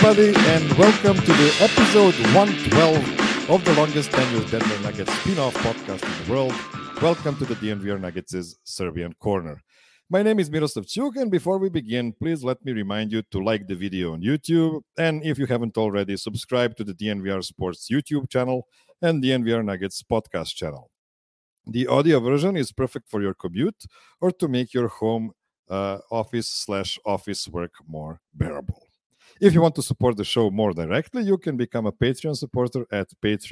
everybody, and welcome to the episode 112 of the longest tenured Denver Nuggets spin-off podcast in the world. Welcome to the DNVR Nuggets' Serbian Corner. My name is Miroslav Ćuk, and before we begin, please let me remind you to like the video on YouTube, and if you haven't already, subscribe to the DNVR Sports YouTube channel and DNVR Nuggets podcast channel. The audio version is perfect for your commute or to make your home office/office work more bearable. If you want to support the show more directly, you can become a Patreon supporter at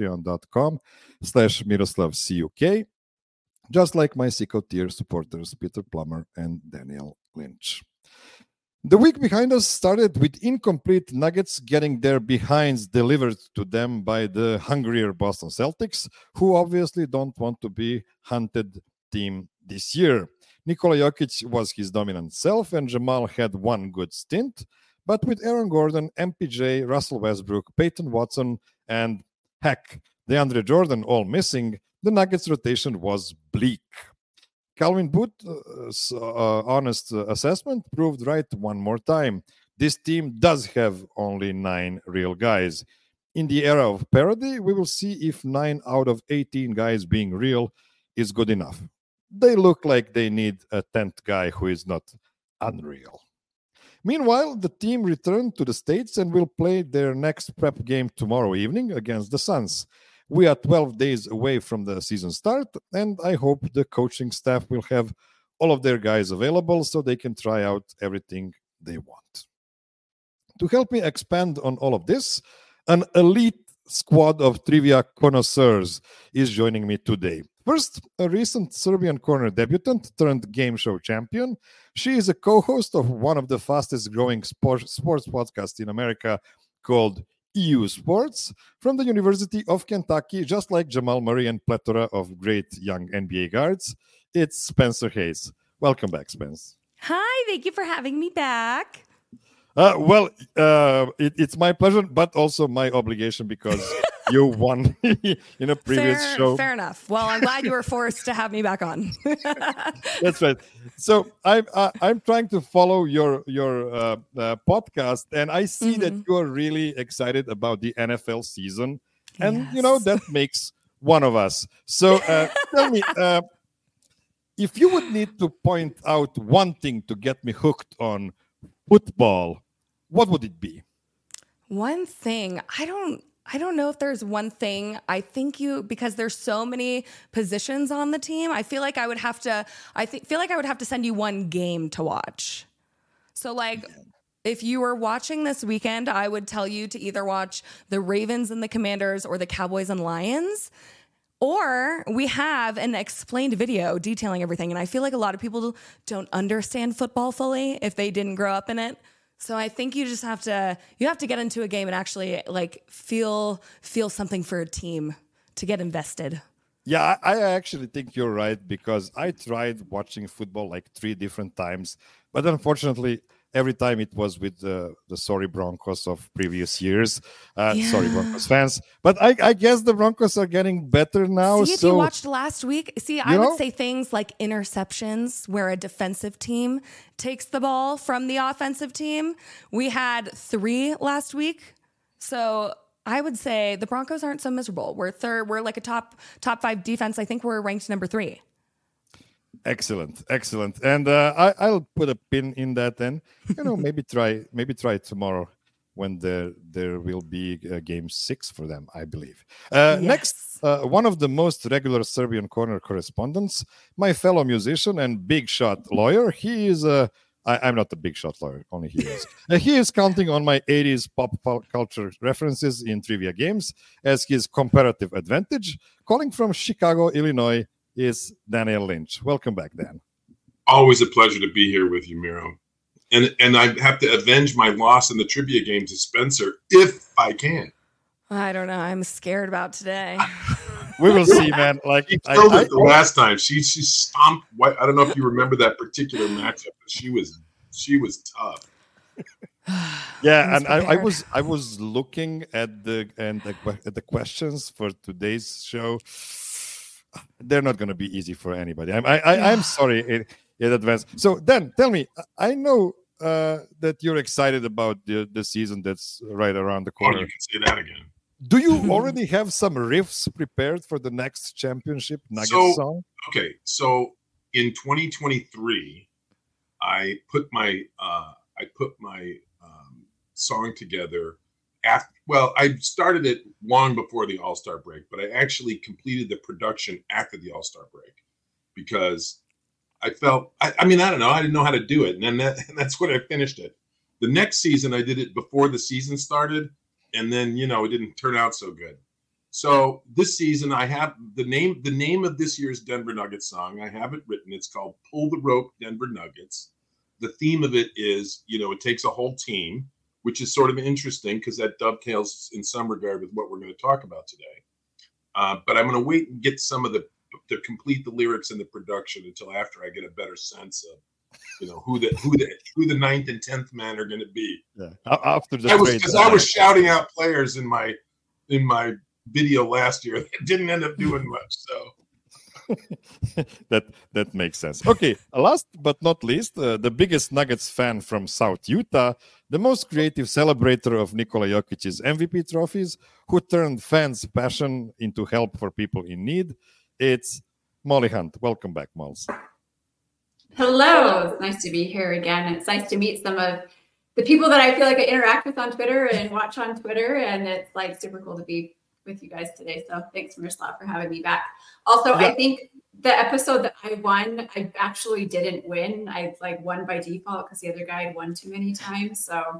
patreon.com/MiroslavCuk, just like my Sicko tier supporters Peter Plummer and Daniel Lynch. The week behind us started with incomplete Nuggets getting their behinds delivered to them by the hungrier Boston Celtics, who obviously don't want to be hunted team this year. Nikola Jokic was his dominant self, and Jamal had one good stint. But with Aaron Gordon, MPJ, Russell Westbrook, Peyton Watson, and heck, DeAndre Jordan all missing, the Nuggets rotation was bleak. Calvin Booth's honest assessment proved right one more time. This team does have only 9 real guys. In the era of parody, we will see if 9 out of 18 guys being real is good enough. They look like they need a 10th guy who is not unreal. Meanwhile, the team returned to the States and will play their next prep game tomorrow evening against the Suns. We are 12 days away from the season start, and I hope the coaching staff will have all of their guys available so they can try out everything they want. To help me expand on all of this, an elite squad of trivia connoisseurs is joining me today. First, a recent Serbian Corner debutant turned game show champion. She is a co-host of one of the fastest growing sports podcasts in America called EU Sports from the University of Kentucky, just like Jamal Murray and plethora of great young NBA guards. It's Spencer Hayes. Welcome back, Spence. Hi, thank you for having me back. It's my pleasure, but also my obligation because you won in a previous show. Fair enough. Well, I'm glad you were forced to have me back on. That's right. So I'm trying to follow your podcast, and I see that you are really excited about the NFL season, and that makes one of us. So tell me, if you would need to point out one thing to get me hooked on football, what would it be? One thing, I don't know if there's one thing. I think because there's so many positions on the team, I feel like I would have to send you one game to watch. So if you were watching this weekend, I would tell you to either watch the Ravens and the Commanders or the Cowboys and Lions. Or we have an explained video detailing everything. And I feel like a lot of people don't understand football fully if they didn't grow up in it. So I think you just have to get into a game and actually feel something for a team to get invested. Yeah, I actually think you're right, because I tried watching football 3 different times, but unfortunately every time it was with the sorry Broncos of previous years. Sorry, Broncos fans. But I guess the Broncos are getting better now. See, if you watched last week, I would say things like interceptions, where a defensive team takes the ball from the offensive team. We had 3 last week. So I would say the Broncos aren't so miserable. We're third. We're like a top 5 defense. I think we're ranked number 3. Excellent. And I'll put a pin in that, and maybe try tomorrow when there will be game 6 for them, I believe. Yes. Next, one of the most regular Serbian Corner correspondents, my fellow musician and big shot lawyer. He is I'm not a big shot lawyer, only he is. He is counting on my 80s pop culture references in trivia games as his comparative advantage. Calling from Chicago, Illinois, is Daniel Lynch. Welcome back, Dan. Always a pleasure to be here with you, Miro. And I have to avenge my loss in the trivia game to Spencer, if I can. I don't know. I'm scared about today. We will see, man. She killed it the last time. She stomped. I don't know if you remember that particular matchup, but she was tough. Yeah, and I was looking at the questions for today's show. They're not going to be easy for anybody. I'm sorry in advance. So then, tell me. I know that you're excited about the season that's right around the corner. Oh, you can say that again. Do you already have some riffs prepared for the next championship Nuggets song? Okay, so in 2023, I put my song together. I started it long before the All-Star break, but I actually completed the production after the All-Star break because I felt, I don't know, I didn't know how to do it. And that's when I finished it. The next season, I did it before the season started. And then, it didn't turn out so good. So this season, I have the name of this year's Denver Nuggets song. I have it written. It's called Pull the Rope, Denver Nuggets. The theme of it is, it takes a whole team, which is sort of interesting because that dovetails in some regard with what we're going to talk about today. But I'm going to wait and get some of to complete the lyrics and the production until after I get a better sense of, who the 9th and 10th man are going to be. Yeah. After the I was shouting out players in my video last year that didn't end up doing much. So that makes sense. Okay, last but not least, the biggest Nuggets fan from South Utah, the most creative celebrator of Nikola Jokic's MVP trophies, who turned fans' passion into help for people in need. It's Molly Hunt. Welcome back, Mols. Hello. It's nice to be here again. It's nice to meet some of the people that I feel like I interact with on Twitter and watch on Twitter. And it's like super cool to be with you guys today. So thanks, Miroslav, for having me back. Also, yeah. I think the episode that I won, I actually didn't win. I won by default because the other guy had won too many times. So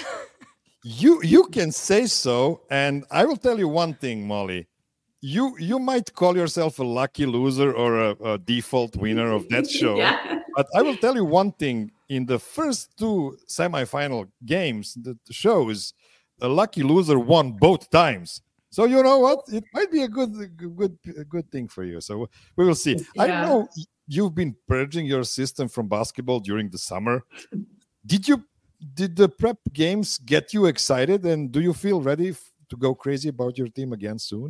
you can say so. And I will tell you one thing, Molly. You might call yourself a lucky loser or a default winner of that show. Yeah. But I will tell you one thing. In the first two semifinal games, the shows, a lucky loser won both times. So you know what? It might be a good thing for you. So we will see. Yeah. I know you've been purging your system from basketball during the summer. Did the prep games get you excited? And do you feel ready to go crazy about your team again soon?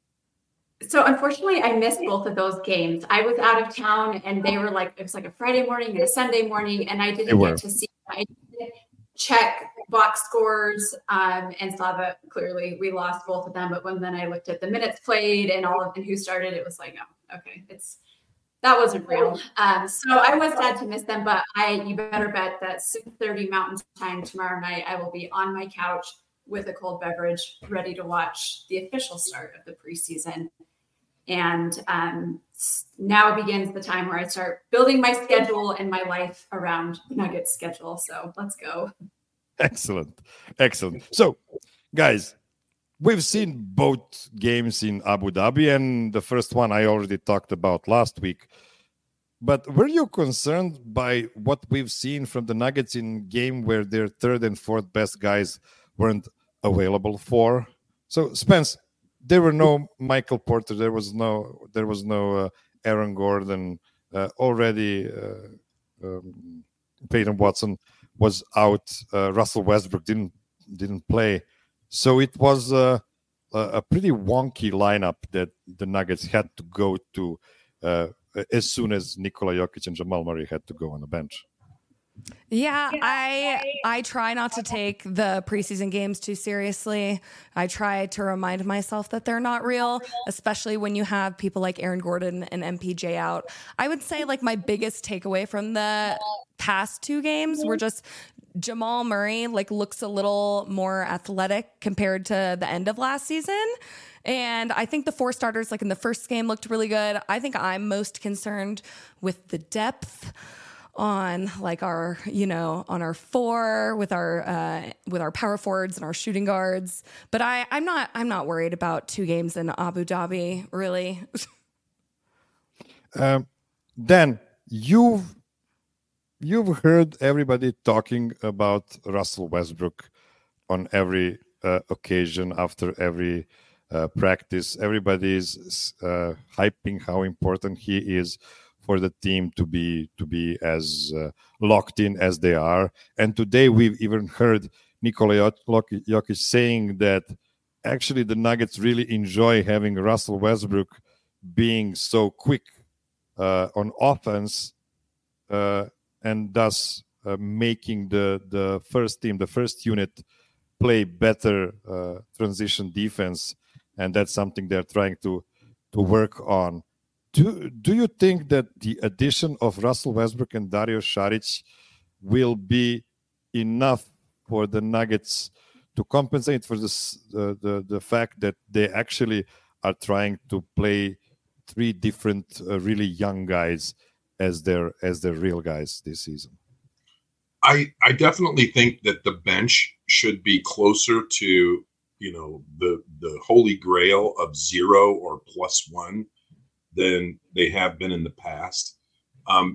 So unfortunately, I missed both of those games. I was out of town, and they were it was a Friday morning and a Sunday morning, and I didn't get to see. I didn't check box scores and saw that clearly we lost both of them. But then I looked at the minutes played and who started, it was oh, okay, that wasn't real. So I was sad to miss them, but you better bet that 6:30 Mountain Time tomorrow night, I will be on my couch with a cold beverage, ready to watch the official start of the preseason. And now begins the time where I start building my schedule and my life around the Nuggets schedule. So let's go. Excellent. So, guys, we've seen both games in Abu Dhabi, and the first one I already talked about last week. But were you concerned by what we've seen from the Nuggets in game where their third and fourth best guys weren't available for? So, Spence, there were no Michael Porter. There was no Aaron Gordon. Already, Peyton Watson was out. Russell Westbrook didn't play. So it was a pretty wonky lineup that the Nuggets had to go to as soon as Nikola Jokic and Jamal Murray had to go on the bench. Yeah, I try not to take the preseason games too seriously. I try to remind myself that they're not real, especially when you have people like Aaron Gordon and MPJ out. I would say my biggest takeaway from the past two games were just Jamal Murray looks a little more athletic compared to the end of last season. And I think the four starters in the first game looked really good. I think I'm most concerned with the depth on our on our four with our power forwards and our shooting guards, but I'm not worried about two games in Abu Dhabi really. Dan, you've heard everybody talking about Russell Westbrook on every occasion after every practice. Everybody's hyping how important he is for the team to be as locked in as they are. And today we've even heard Nikola Jokic saying that actually the Nuggets really enjoy having Russell Westbrook being so quick on offense and thus making the first team, the first unit, play better transition defense, and that's something they're trying to work on. Do you think that the addition of Russell Westbrook and Dario Saric will be enough for the Nuggets to compensate for this, the fact that they actually are trying to play three different really young guys as their real guys this season? I definitely think that the bench should be closer to, the holy grail of 0 or +1 than they have been in the past. I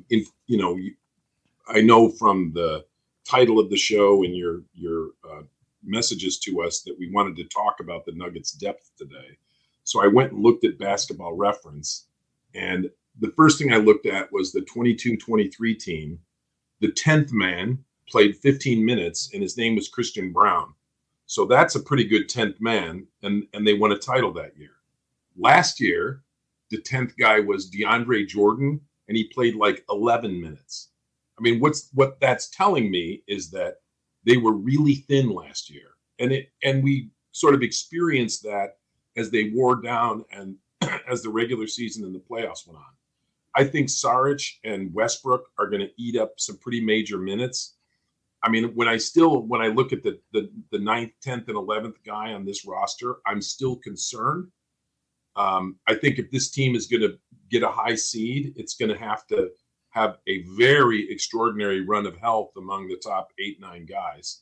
know from the title of the show and your messages to us that we wanted to talk about the Nuggets depth today. So I went and looked at Basketball Reference, and the first thing I looked at was the 22-23 team. The 10th man played 15 minutes, and his name was Christian Braun. So that's a pretty good 10th man, and they won a title that year. Last year, the 10th guy was DeAndre Jordan, and he played like 11 minutes. I mean, what that's telling me is that they were really thin last year, and we sort of experienced that as they wore down and as the regular season and the playoffs went on. I think Saric and Westbrook are going to eat up some pretty major minutes. I mean, when I look at the 9th, 10th, and 11th guy on this roster, I'm still concerned. I think if this team is going to get a high seed, it's going to have a very extraordinary run of health among the top 8-9 guys.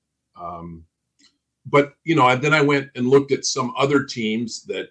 But then I went and looked at some other teams that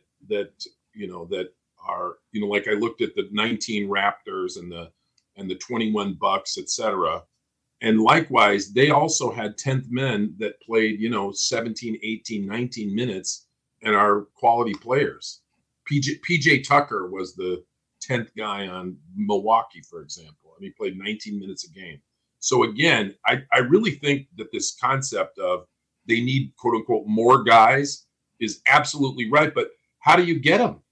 are, like I looked at the 19 Raptors and the 21 Bucks, etc. And likewise, they also had 10th men that played, 17, 18, 19 minutes and are quality players. PJ Tucker was the 10th guy on Milwaukee, for example, and he played 19 minutes a game. So again, I really think that this concept of they need, quote unquote, more guys is absolutely right. But how do you get them?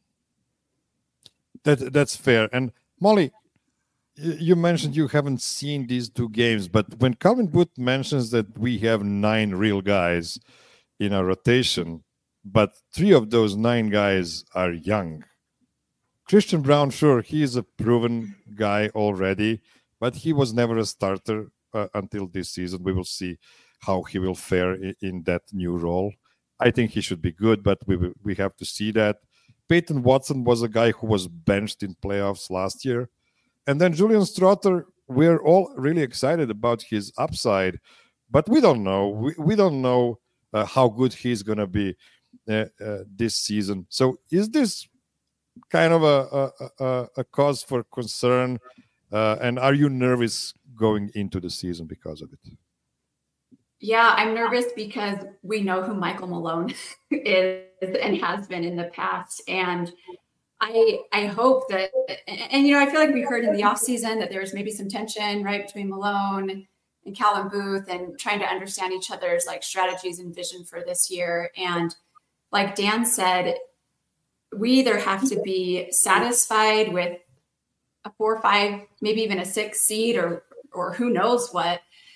That's fair. And Molly, you mentioned you haven't seen these two games, but when Calvin Booth mentions that we have 9 real guys in our rotation, but 3 of those 9 guys are young. Christian Braun, sure, he is a proven guy already, but he was never a starter until this season. We will see how he will fare in that new role. I think he should be good, but we have to see that. Peyton Watson was a guy who was benched in playoffs last year. And then Julian Strawther, we're all really excited about his upside, but we don't know. We don't know how good he's going to be this season. So is this kind of a cause for concern? And are you nervous going into the season because of it? Yeah, I'm nervous because we know who Michael Malone is and has been in the past. And I hope that, and I feel like we heard in the offseason that there was maybe some tension, right, between Malone and Calvin Booth and trying to understand each other's like strategies and vision for this year. And like Dan said, we either have to be satisfied with a 4 or 5, maybe even a 6 seed or who knows what,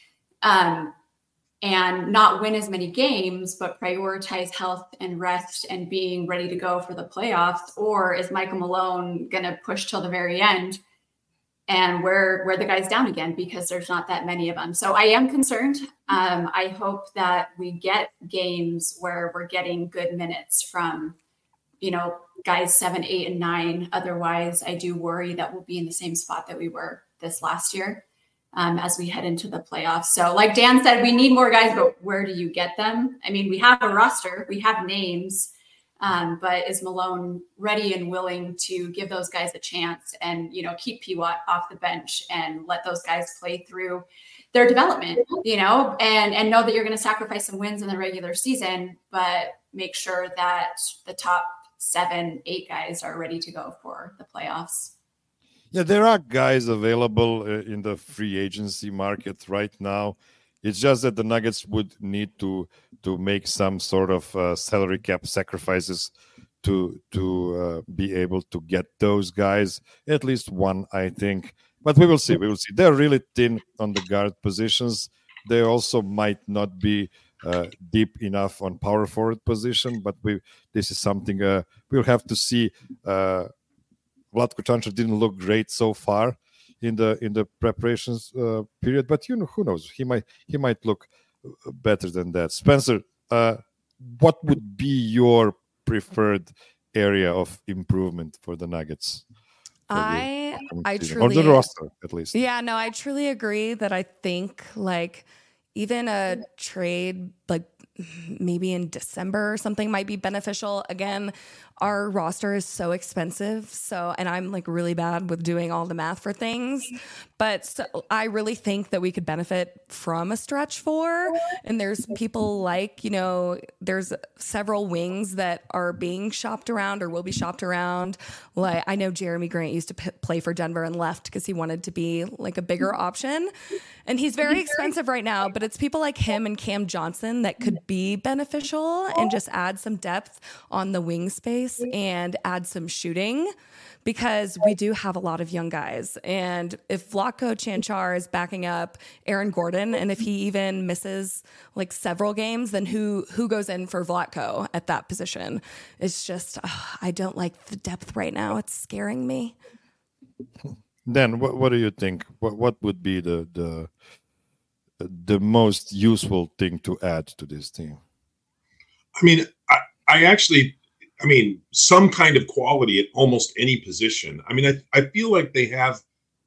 and not win as many games, but prioritize health and rest and being ready to go for the playoffs? Or is Michael Malone going to push till the very end and wear the guys down again because there's not that many of them? So I am concerned. I hope that we get games where we're getting good minutes from, guys 7, 8, and 9. Otherwise, I do worry that we'll be in the same spot that we were this last year. As we head into the playoffs. So like Dan said, we need more guys, but where do you get them? I mean, we have a roster, we have names, but is Malone ready and willing to give those guys a chance and, keep P-Watt off the bench and let those guys play through their development, and know that you're going to sacrifice some wins in the regular season, but make sure that the top 7, 8 guys are ready to go for the playoffs. Yeah, there are guys available in the free agency market right now. It's just that the Nuggets would need to make some sort of salary cap sacrifices to be able to get those guys. At least one, I think. But we will see. We will see. They're really thin on the guard positions. They also might not be deep enough on power forward position. But this is something we'll have to see. Vlatko Čančar didn't look great so far in the preparations period. But who knows? He might look better than that. Spencer, what would be your preferred area of improvement for the Nuggets? I truly, or the roster at least. Yeah, no, I truly agree that I think like even a trade like maybe in December or something might be beneficial. Again, our roster is so expensive. And I'm like really bad with doing all the math for things, but I really think that we could benefit from a stretch 4. And there's people like, there's several wings that are being shopped around or will be shopped around. Like I know Jeremy Grant used to play for Denver and left because he wanted to be like a bigger option. And he's very expensive right now, but it's people like him and Cam Johnson that could be beneficial and just add some depth on the wing space and add some shooting because we do have a lot of young guys. And if Vlatko Čančar is backing up Aaron Gordon, and if he even misses like several games, then who goes in for Vlatko at that position? It's just, I don't like the depth right now. It's scaring me. Dan, what do you think? What would be the most useful thing to add to this team? I mean, I mean, some kind of quality at almost any position. I mean, I feel like they have,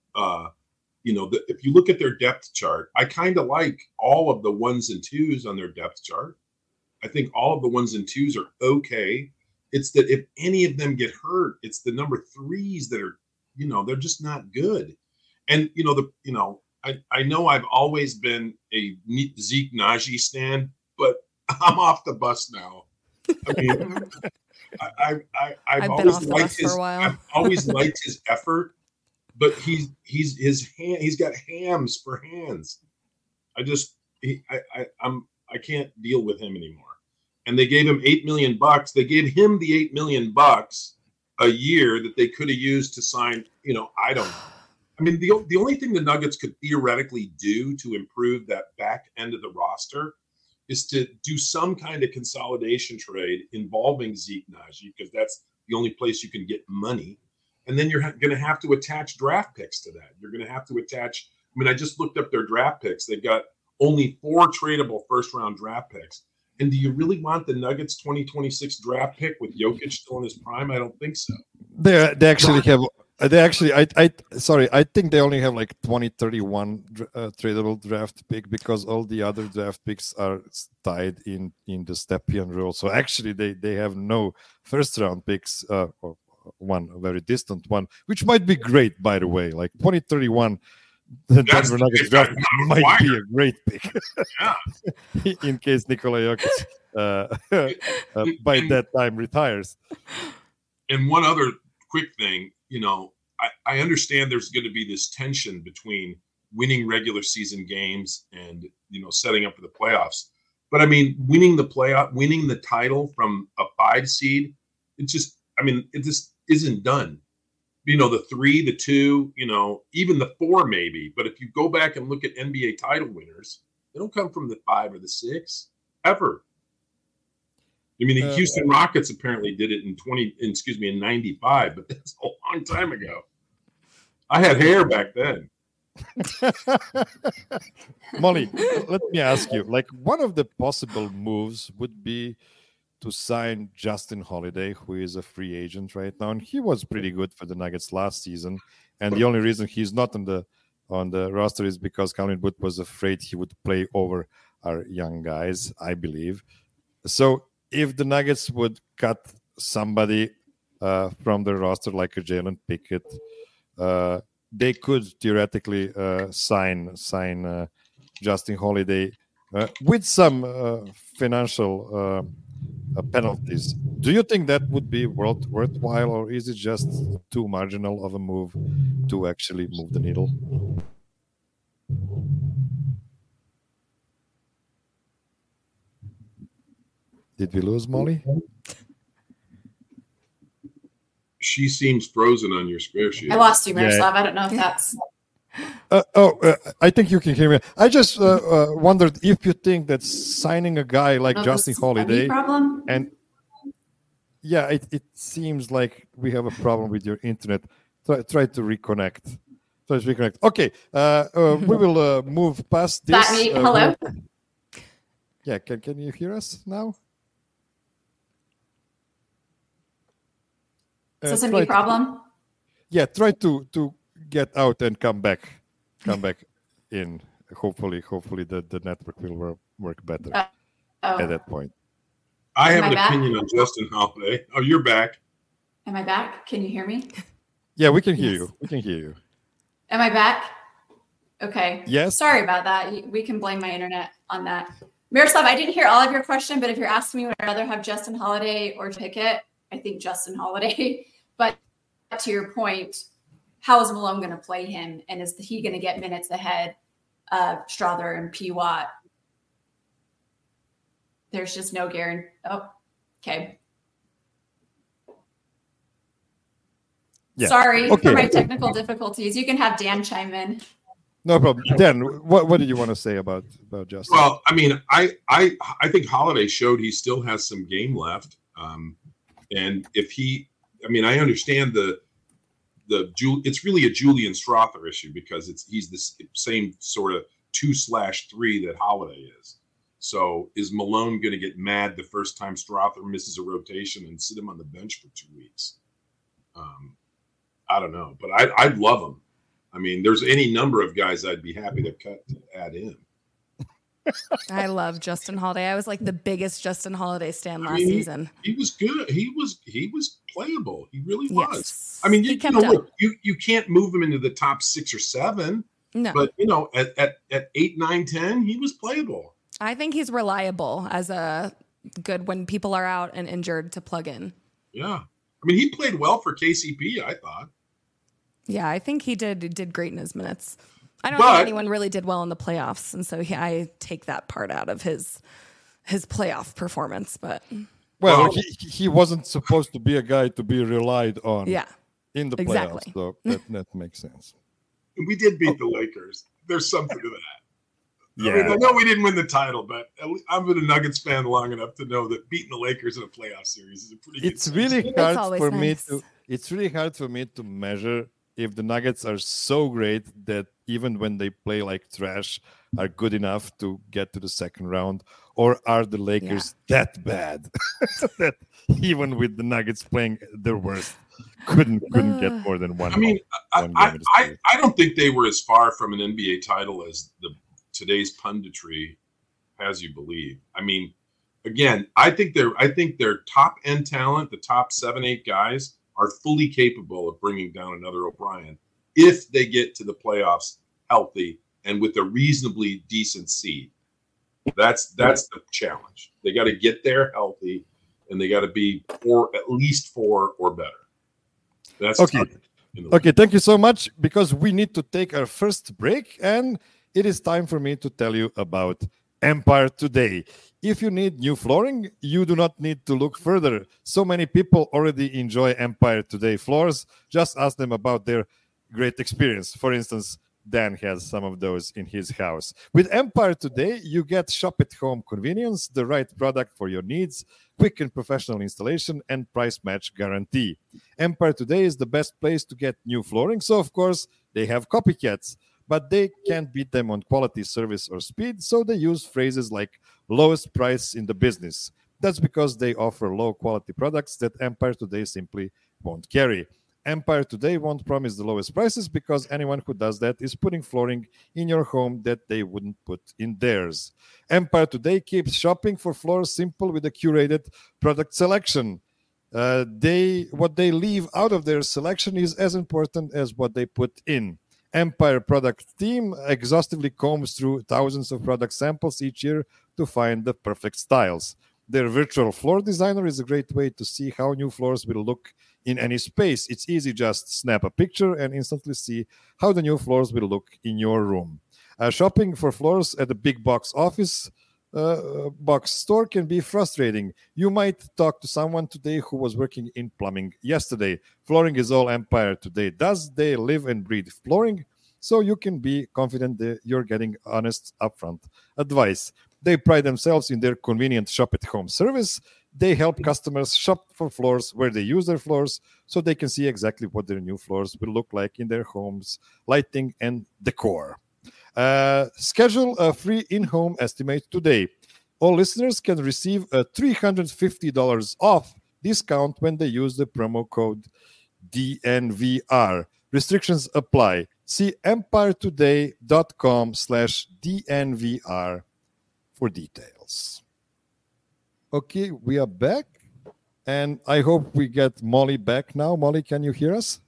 if you look at their depth chart, I kind of like all of the 1s and 2s on their depth chart. I think all of the 1s and 2s are okay. It's that if any of them get hurt, it's the number 3s that are, they're just not good. And, I know I've always been a Zeke Nnaji stan, but I'm off the bus now. I mean, I've always liked his. I've always liked his effort, but he's got hams for hands. I can't deal with him anymore. And they gave him $8 million. They gave him the $8 million a year that they could have used to sign. I don't know. I mean, the only thing the Nuggets could theoretically do to improve that back end of the roster is to do some kind of consolidation trade involving Zeke Nnaji, because that's the only place you can get money. And then you're going to have to attach draft picks to that. You're going to have to attach. I mean, I just looked up their draft picks. They've got only 4 tradable first-round draft picks. And do you really want the Nuggets 2026 draft pick with Jokic still in his prime? I don't think so. They actually have. I think they only have like 2031 tradable draft pick because all the other draft picks are tied in the Stepien rule. So actually, they have no first round picks, or one a very distant one, which might be great, by the way. Like 2031, the Denver Nuggets draft might be a great pick. In case Nikola Jokic by that time retires. And one other quick thing. I understand there's going to be this tension between winning regular season games and, setting up for the playoffs. But I mean, winning the title from a 5 seed, it just isn't done. The 3, the 2, even the 4 maybe. But if you go back and look at NBA title winners, they don't come from the 5 or the 6 ever. I mean, the Houston Rockets apparently did it in 95, but that's a long time ago. I had hair back then. Molly, let me ask you, like one of the possible moves would be to sign Justin Holiday, who is a free agent right now. And he was pretty good for the Nuggets last season. And the only reason he's not on the roster is because Calvin Booth was afraid he would play over our young guys, I believe. So if the Nuggets would cut somebody from the roster like a Jalen Pickett, they could theoretically sign Justin Holiday with some financial penalties. Do you think that would be worthwhile, or is it just too marginal of a move to actually move the needle? Did we lose Molly? She seems frozen on your spreadsheet. I lost you, Miroslav. Yeah. I don't know if that's... I think you can hear me. I just wondered if you think that signing a guy like Justin Holiday problem? And yeah, it seems like we have a problem with your internet. Try to reconnect. Okay, we will move past this. That me? Hello? Yeah, can you hear us now? Is this a me problem? Yeah, try to get out and come back in. Hopefully the network will work better at that point. I have an opinion on Justin Holiday. Oh, you're back. Am I back? Can you hear me? Yeah, we can hear you. We can hear you. Am I back? Okay. Yes. Sorry about that. We can blame my internet on that. Miroslav, I didn't hear all of your question, but if you're asking me would I rather have Justin Holiday or Pickett, I think Justin Holiday. But to your point, how is Malone going to play him? And is he going to get minutes ahead of Strother and P. Watt? There's just no guarantee. Oh, okay. Yeah. Sorry for my technical difficulties. You can have Dan chime in. No problem. Dan, what did you want to say about Justin? Well, I mean, I think Holiday showed he still has some game left. And if I understand it's really a Julian Strother issue because he's the same sort of 2/3 that Holiday is. So is Malone going to get mad the first time Strother misses a rotation and sit him on the bench for 2 weeks? I don't know, but I'd love him. I mean, there's any number of guys I'd be happy to add in. I love Justin Holiday. I was like the biggest Justin Holiday stan last season. He was good. He was playable. He really was. Yes. I mean, you can't move him into the top 6 or 7. No. But at 8, 9, 10, he was playable. I think he's reliable as a good when people are out and injured to plug in. Yeah. I mean, he played well for KCP, I thought. Yeah, I think he did great in his minutes. I don't think anyone really did well in the playoffs, and so I take that part out of his playoff performance. But he wasn't supposed to be a guy to be relied on. Yeah, in the playoffs, so that makes sense. We did beat the Lakers. There's something to that. Yeah. I know we didn't win the title, but I've been a Nuggets fan long enough to know that beating the Lakers in a playoff series is a pretty good It's really hard for me to measure if the Nuggets are so great that even when they play like trash are good enough to get to the second round, or are the Lakers that bad that even with the Nuggets playing their worst couldn't get more than one. I mean, I don't think they were as far from an NBA title as today's punditry has you believe. I mean, again, I think their top end talent, the top 7, 8 guys, are fully capable of bringing down another O'Brien if they get to the playoffs healthy and with a reasonably decent seed. That's the challenge. They got to get there healthy, and they got to be at least 4 or better. That's okay. Okay, thank you so much, because we need to take our first break, and it is time for me to tell you about Empire Today. If you need new flooring, you do not need to look further. So many people already enjoy Empire Today floors. Just ask them about their great experience. For instance, Dan has some of those in his house. With Empire Today, you get shop-at-home convenience, the right product for your needs, quick and professional installation, and price match guarantee. Empire Today is the best place to get new flooring, so of course, they have copycats. But they can't beat them on quality, service, or speed, so they use phrases like lowest price in the business. That's because they offer low-quality products that Empire Today simply won't carry. Empire Today won't promise the lowest prices because anyone who does that is putting flooring in your home that they wouldn't put in theirs. Empire Today keeps shopping for floors simple with a curated product selection. What they leave out of their selection is as important as what they put in. Empire product team exhaustively combs through thousands of product samples each year to find the perfect styles. Their virtual floor designer is a great way to see how new floors will look in any space. It's easy, just snap a picture and instantly see how the new floors will look in your room. Shopping for floors at a big box store can be frustrating. You might talk to someone today who was working in plumbing yesterday. Flooring is all Empire Today does. They live and breathe flooring. so you can be confident that you're getting honest, upfront advice. They pride themselves in their convenient shop-at-home service. They help customers shop for floors where they use their floors so they can see exactly what their new floors will look like in their homes, lighting, and decor. Schedule a free in-home estimate today. All listeners can receive a $350 off discount when they use the promo code DNVR. Restrictions apply. See empiretoday.com/DNVR for details. Okay, we are back. And I hope we get Molly back now. Molly, can you hear us?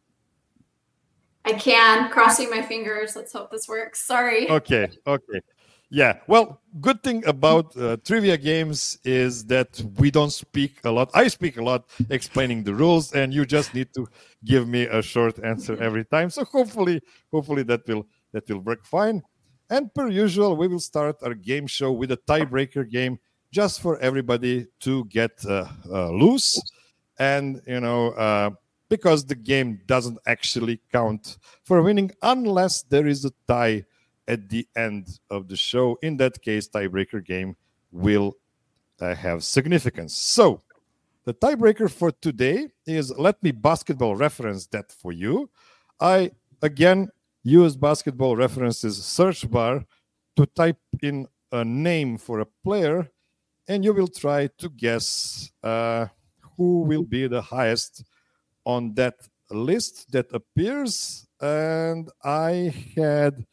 I can. Crossing my fingers. Let's hope this works. Sorry. Okay. Yeah, well, good thing about trivia games is that we don't speak a lot. I speak a lot explaining the rules, and you just need to give me a short answer every time. So hopefully that will work fine. And per usual, we will start our game show with a tiebreaker game just for everybody to get loose. And, because the game doesn't actually count for winning unless there is a tie at the end of the show. In that case, tiebreaker game will have significance. So the tiebreaker for today is, let me basketball reference that for you. I, again, use basketball references search bar to type in a name for a player, and you will try to guess who will be the highest on that list that appears. And I had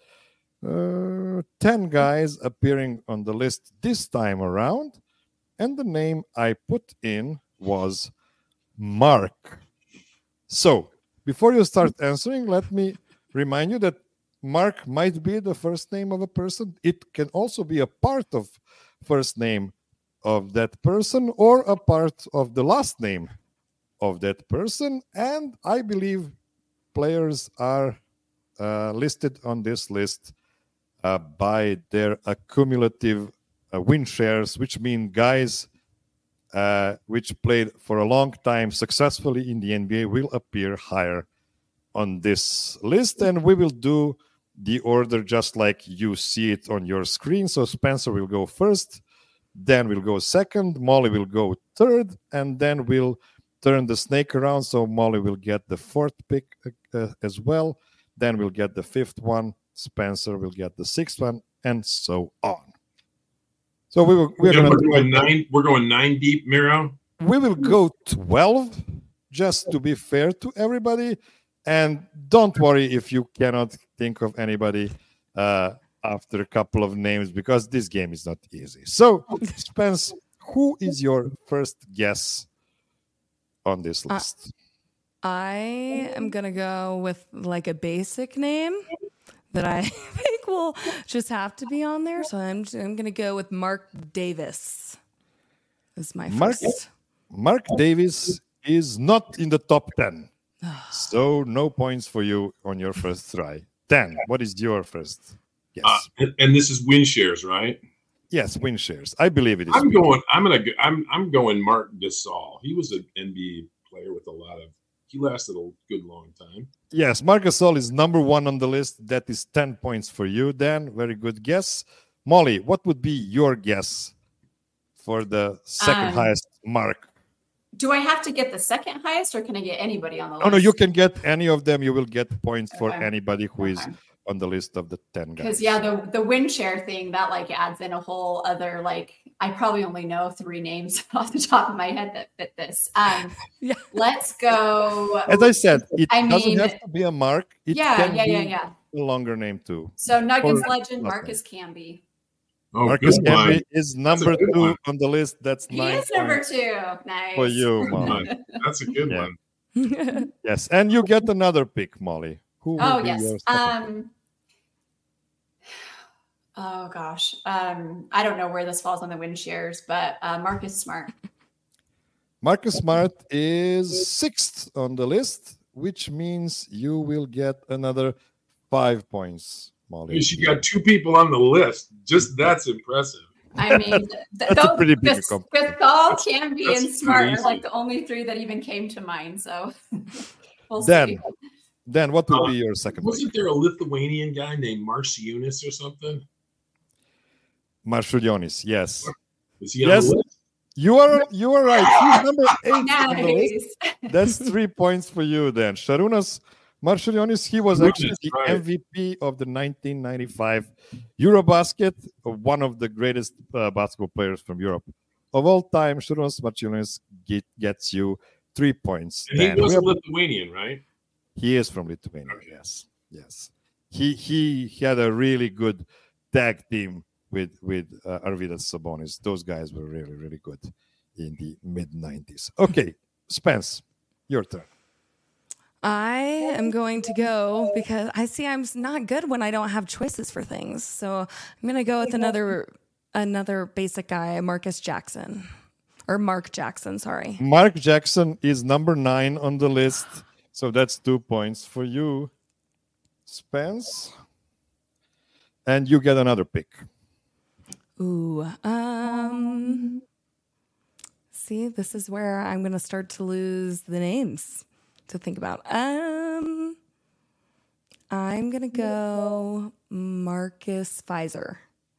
10 guys appearing on the list this time around, and the name I put in was Mark. So before you start answering, let me remind you that Mark might be the first name of a person. It can also be a part of first name of that person or a part of the last name of that person. And I believe players are listed on this list by their accumulative win shares, which mean guys which played for a long time successfully in the NBA will appear higher on this list. And we will do the order just like you see it on your screen. So Spencer will go first, Dan will go second, Molly will go third, and then we'll turn the snake around. So Molly will get the fourth pick as well. Dan will get the fifth one. Spencer will get the sixth one, and so on. So we're going 9 deep, Miro. We will go 12, just to be fair to everybody. And don't worry if you cannot think of anybody after a couple of names, because this game is not easy. So, Spence, who is your first guess on this list? I am going to go with like a basic name that I think will just have to be on there. So I'm going to go with Mark Davis. This is my first. Mark Davis is not in the top 10. So no points for you on your first try. Dan, what is your first guess? And this is win shares, right? Yes, win shares. I believe it is. I'm going Mark Gasol. He was an NBA player with he lasted a good long time. Yes, Marc Gasol is number 1 on the list. That is 10 points for you, Dan. Very good guess. Molly, what would be your guess for the second highest mark? Do I have to get the second highest, or can I get anybody on the list? No, you can get any of them. You will get points for anybody who is on the list of the 10 guys. Because the win share thing, that adds in a whole other, I probably only know 3 names off the top of my head that fit this. Let's go. As I said, it doesn't have to be a mark. It can be a longer name too. So Nuggets legend Marcus Camby. Oh, Marcus Camby is number 2 on the list. That's 9 He is number 2. Nice. For you, Molly. That's a good one. Yes, and you get another pick, Molly. Who will be your second pick? Oh gosh. I don't know where this falls on the win shares, but Marcus Smart. Marcus Smart is 6th on the list, which means you will get another 5 points, Molly. She got 2 people on the list. Just that's impressive. I mean, that's a pretty big Gasol, Camby, and Smart are the only 3 that even came to mind. So we'll then, see. Dan, what will be your second? Wasn't there a Lithuanian guy named Marciunas or something? Marciulionis, yes. Is he on the list? You are right. He's number 8 on the Nice. list. That's 3 points for you then. Šarūnas Marciulionis, he was actually the MVP of the 1995 Eurobasket, one of the greatest basketball players from Europe of all time. Šarūnas Marciulionis gets you 3 points. And he was a Lithuanian, right? He is from Lithuania. Okay. Yes. He had a really good tag team with Arvydas Sabonis. Those guys were really, really good in the mid-90s. Okay, Spence, your turn. I am going to go because I see I'm not good when I don't have choices for things. So I'm going to go with another basic guy, Marcus Jackson. Or Mark Jackson, sorry. Mark Jackson is number 9 on the list. So that's 2 points for you, Spence. And you get another pick. Ooh. See, this is where I'm going to start to lose the names to think about. I'm going to go Marcus Fizer.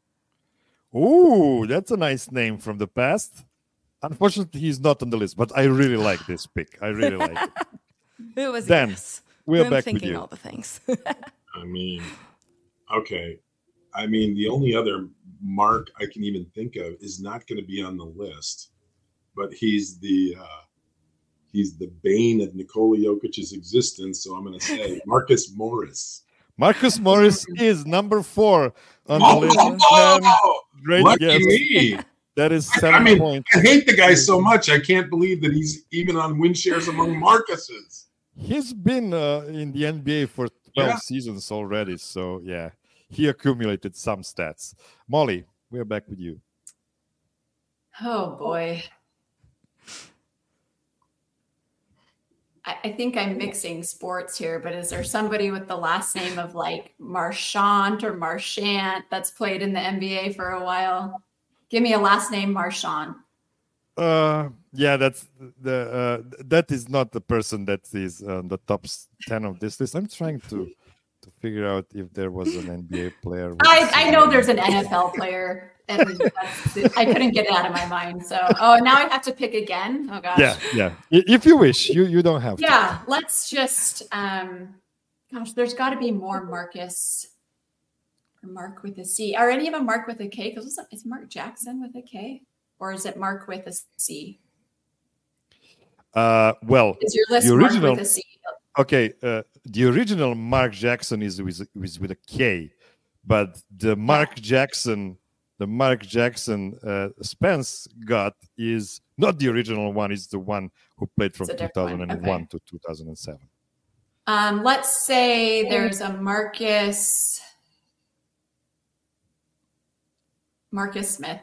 Ooh, that's a nice name from the past. Unfortunately, he's not on the list, but I really like this pick. I really like it. It was Dan, yes. we're I'm back thinking with you. all the things. Okay. The only other Mark I can even think of is not going to be on the list, but he's the bane of Nikola Jokic's existence. So I'm going to say Marcus Morris. Marcus Morris is number 4 on the list. Great Lucky guess. me. That is 7 points. I hate the guy so much. I can't believe that he's even on win shares among Marcuses. He's been in the NBA for 12 seasons already. So, yeah, he accumulated some stats. Molly, we're back with you. Oh, boy. I think I'm mixing sports here, but is there somebody with the last name of like Marchant or Marchant that's played in the NBA for a while? Give me a last name, Marchant. Yeah, that's that is not the person that is on the top 10 of this list. I'm trying to figure out if there was an NBA player. I know there's an NFL player, and I couldn't get it out of my mind. So, now I have to pick again. Oh gosh. Yeah. If you wish, you don't have to. Yeah, let's just. Gosh, there's got to be more Marcus. Or Mark with a C. Are any of them Mark with a K? Because is Mark Jackson with a K, or is it Mark with a C? Well, is your list the original, Mark with a C? Okay, the original Mark Jackson is with a K, but the Mark Jackson Spence got is not the original one. It's the one who played from 2001 to 2007. Let's say there's a Marcus Smith.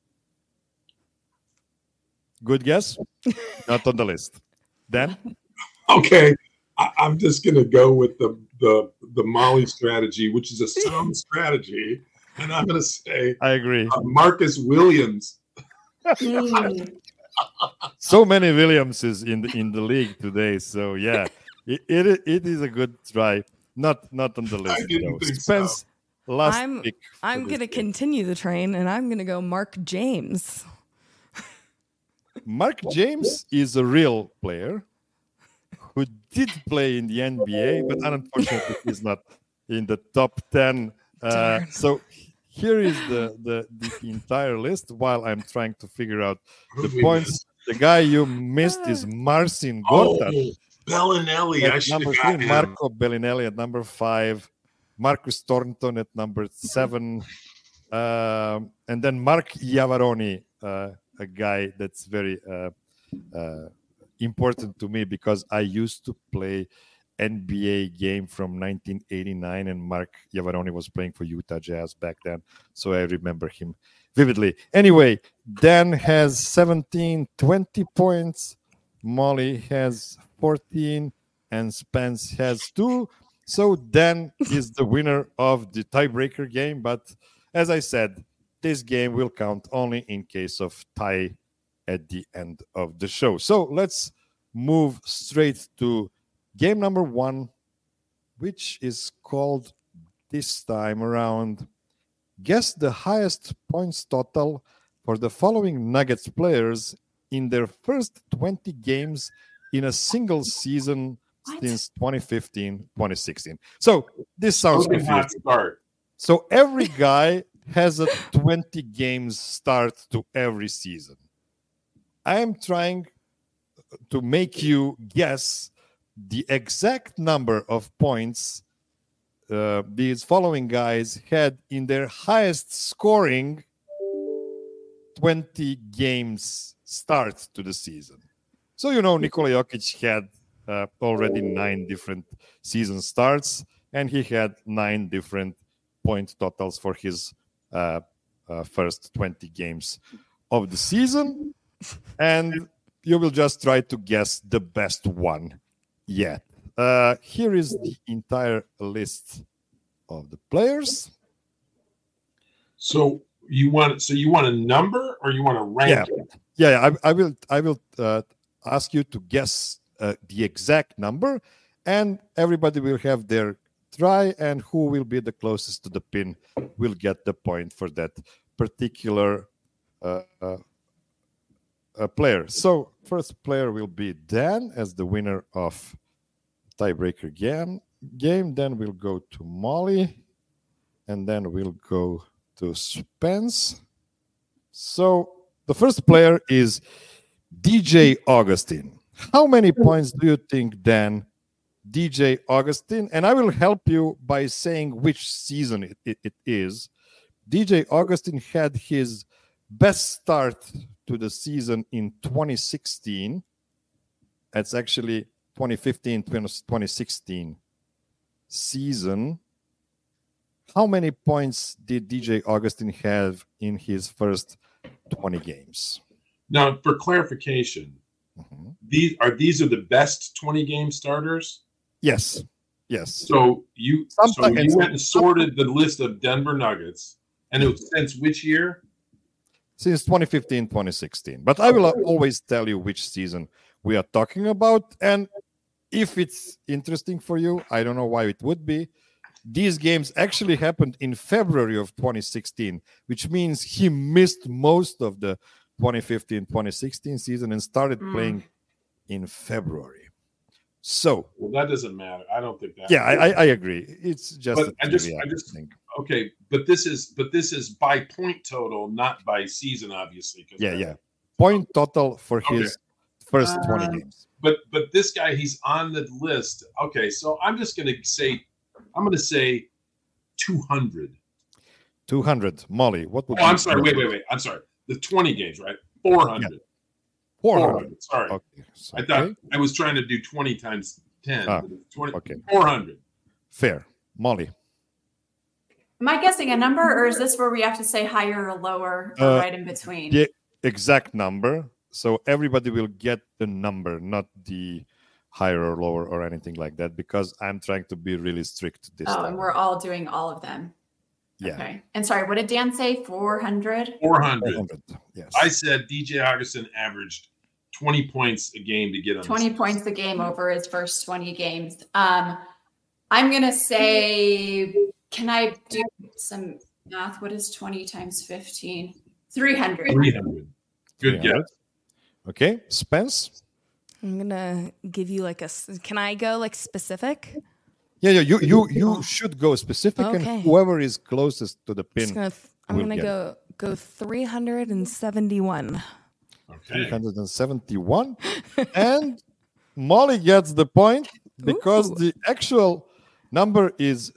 Good guess. Not on the list. Dan? Okay. I'm just going to go with the Molly strategy, which is a sound strategy. And I'm going to say I agree. Marcus Williams. So many Williamses in the league today. So, yeah, it is a good try. Not on the list. I didn't think Spence, so. last pick. I'm going to continue the train, and I'm going to go Mark James. Mark James is a real player who did play in the NBA, but unfortunately is not in the top 10. So here is the entire list while I'm trying to figure out the points. The guy you missed is Marcin Gortat. Bellinelli. I should have gotten him. Marco Bellinelli at number 5. Marcus Thornton at number 7. And then Mark Iavaroni, a guy that's very important to me because I used to play NBA game from 1989 and Mark Iavaroni was playing for Utah Jazz back then. So I remember him vividly. Anyway, Dan has 17, 20 points. Molly has 14 and Spence has 2. So Dan is the winner of the tiebreaker game. But as I said, this game will count only in case of tie at the end of the show. So let's move straight to game number 1 which is called this time around Guess the Highest Points Total for the following Nuggets players in their first 20 games in a single season since 2015-2016. So this sounds confusing. Start. So every guy has a 20 games start to every season. I am trying to make you guess the exact number of points these following guys had in their highest scoring 20 games start to the season. So, Nikola Jokic had already 9 different season starts, and he had 9 different point totals for his first 20 games of the season. And you will just try to guess the best one yet. Here is the entire list of the players. So you want a number or you want a ranking? Yeah. I will ask you to guess the exact number, and everybody will have their try, and who will be the closest to the pin will get the point for that particular player. So first player will be Dan as the winner of tiebreaker game. Then we'll go to Molly, and then we'll go to Spence. So the first player is DJ Augustin. How many points do you think, Dan, DJ Augustin? And I will help you by saying which season it is. DJ Augustin had his best start to the season in 2016. That's actually 2015-2016 season. How many points did DJ Augustin have in his first 20 games? Now, for clarification, these are the best 20 game starters? Yes. So you went and sorted the list of Denver Nuggets, and it was since which year? Since 2015-2016. But I will always tell you which season we are talking about. And if it's interesting for you, I don't know why it would be. These games actually happened in February of 2016, which means he missed most of the 2015-2016 season and started playing in February. So, well, that doesn't matter. I don't think that. Yeah, I agree. It's just. But I just think. Okay, but this is by point total, not by season, obviously. Yeah. Point total for his first 20 games. But this guy, he's on the list. Okay, so I'm just going to say 200. 200. Molly, what would? Oh, I'm sorry. Wait. I'm sorry. The 20 games, right? 400. Yeah. 400. Sorry. Okay. I thought I was trying to do 20 times 10. 20, okay. 400. Fair. Molly. Am I guessing a number, or is this where we have to say higher or lower or right in between? The exact number. So everybody will get the number, not the higher or lower or anything like that, because I'm trying to be really strict this time. And we're all doing all of them. Yeah. Okay. And sorry, what did Dan say? 400? 400. Yes. I said DJ Augustin averaged 20 points a game to get on 20 points a game over his first 20 games. I'm going to say, can I do some math? What is 20 times 15? 300. 300. Good guess. Okay. Spence? I'm going to give you can I go specific? Yeah, you should go specific, and whoever is closest to the pin. I'm gonna go 371. Okay. 371, and Molly gets the point because the actual number is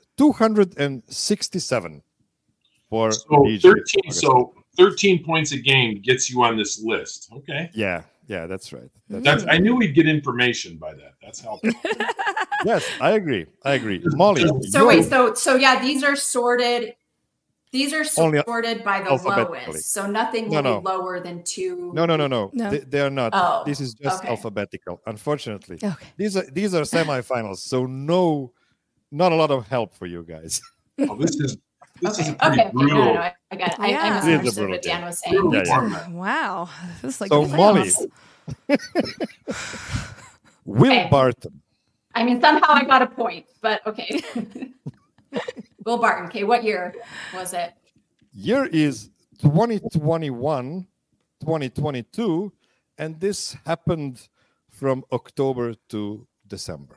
267 for DJ. So 13 points a game gets you on this list. Okay. Yeah, that's right. I knew we'd get information by that. That's helpful. Yes, I agree. Molly. So these are sorted. These are sorted by the lowest. So nothing will be lower than 2. No. They are not. Oh, this is just alphabetical. Unfortunately, okay. These are semifinals, so not a lot of help for you guys. Oh, this is pretty brutal. No, I got it. I misunderstood what Dan was saying. Yeah. Wow, this is so Molly. Will Barton I mean, somehow I got a point, but okay. Will Barton. Okay, what year was it? Year is 2021, 2022, and this happened from October to December.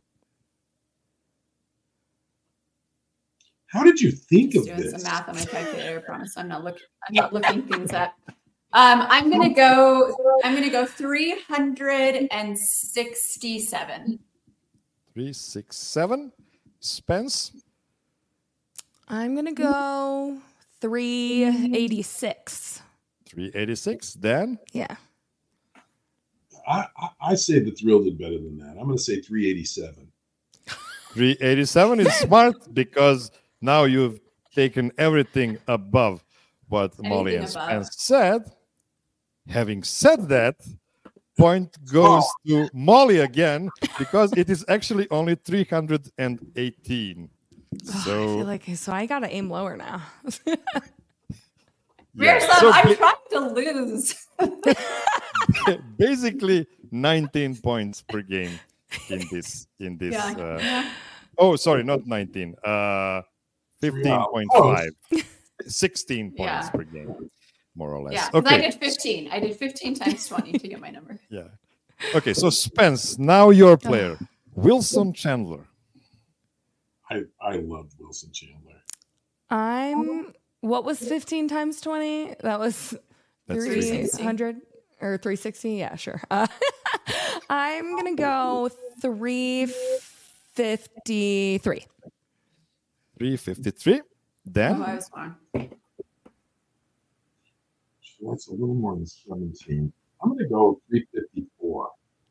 How did you think of doing this? Some math on my calculator. I promise I'm not looking things up. I'm gonna go 367. 367. Spence. I'm gonna go 386. 386. Dan. Yeah. I say the Thrill did better than that. I'm going to say 387. 387 is smart because now you've taken everything above what Molly and Spence said. Having said that, point goes to Molly again because it is actually only 318. So I feel so I gotta aim lower now. I'm trying to lose. Basically 19 points per game in this. Yeah. Oh, sorry, not 19. 15.5. 16 points per game, more or less. Yeah, okay. I did 15. I did 15 times 20 to get my number. Yeah. Okay, so Spence, now your player, Wilson Chandler. I love Wilson Chandler. What was 15 times 20? That was 300 or 360. Yeah, sure. I'm going to go 353. 353. Then? Oh, I was wrong. That's a little more than 17. I'm going to go 354.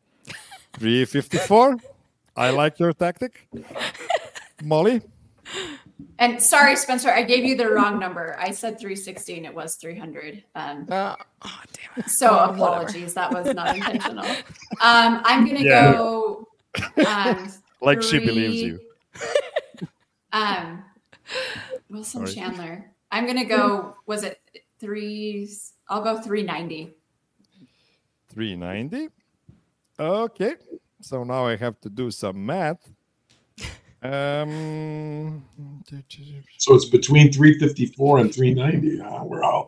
354. I like your tactic. Molly? And sorry, Spencer, I gave you the wrong number. I said 360 and it was 300. Damn it. So apologies. That was not intentional. I'm going to go. Like she believes you. Wilson Chandler. I'm going to go, was it 3? I'll go 390. 390. Okay. So now I have to do some math. So it's between 354 and 390. We're all.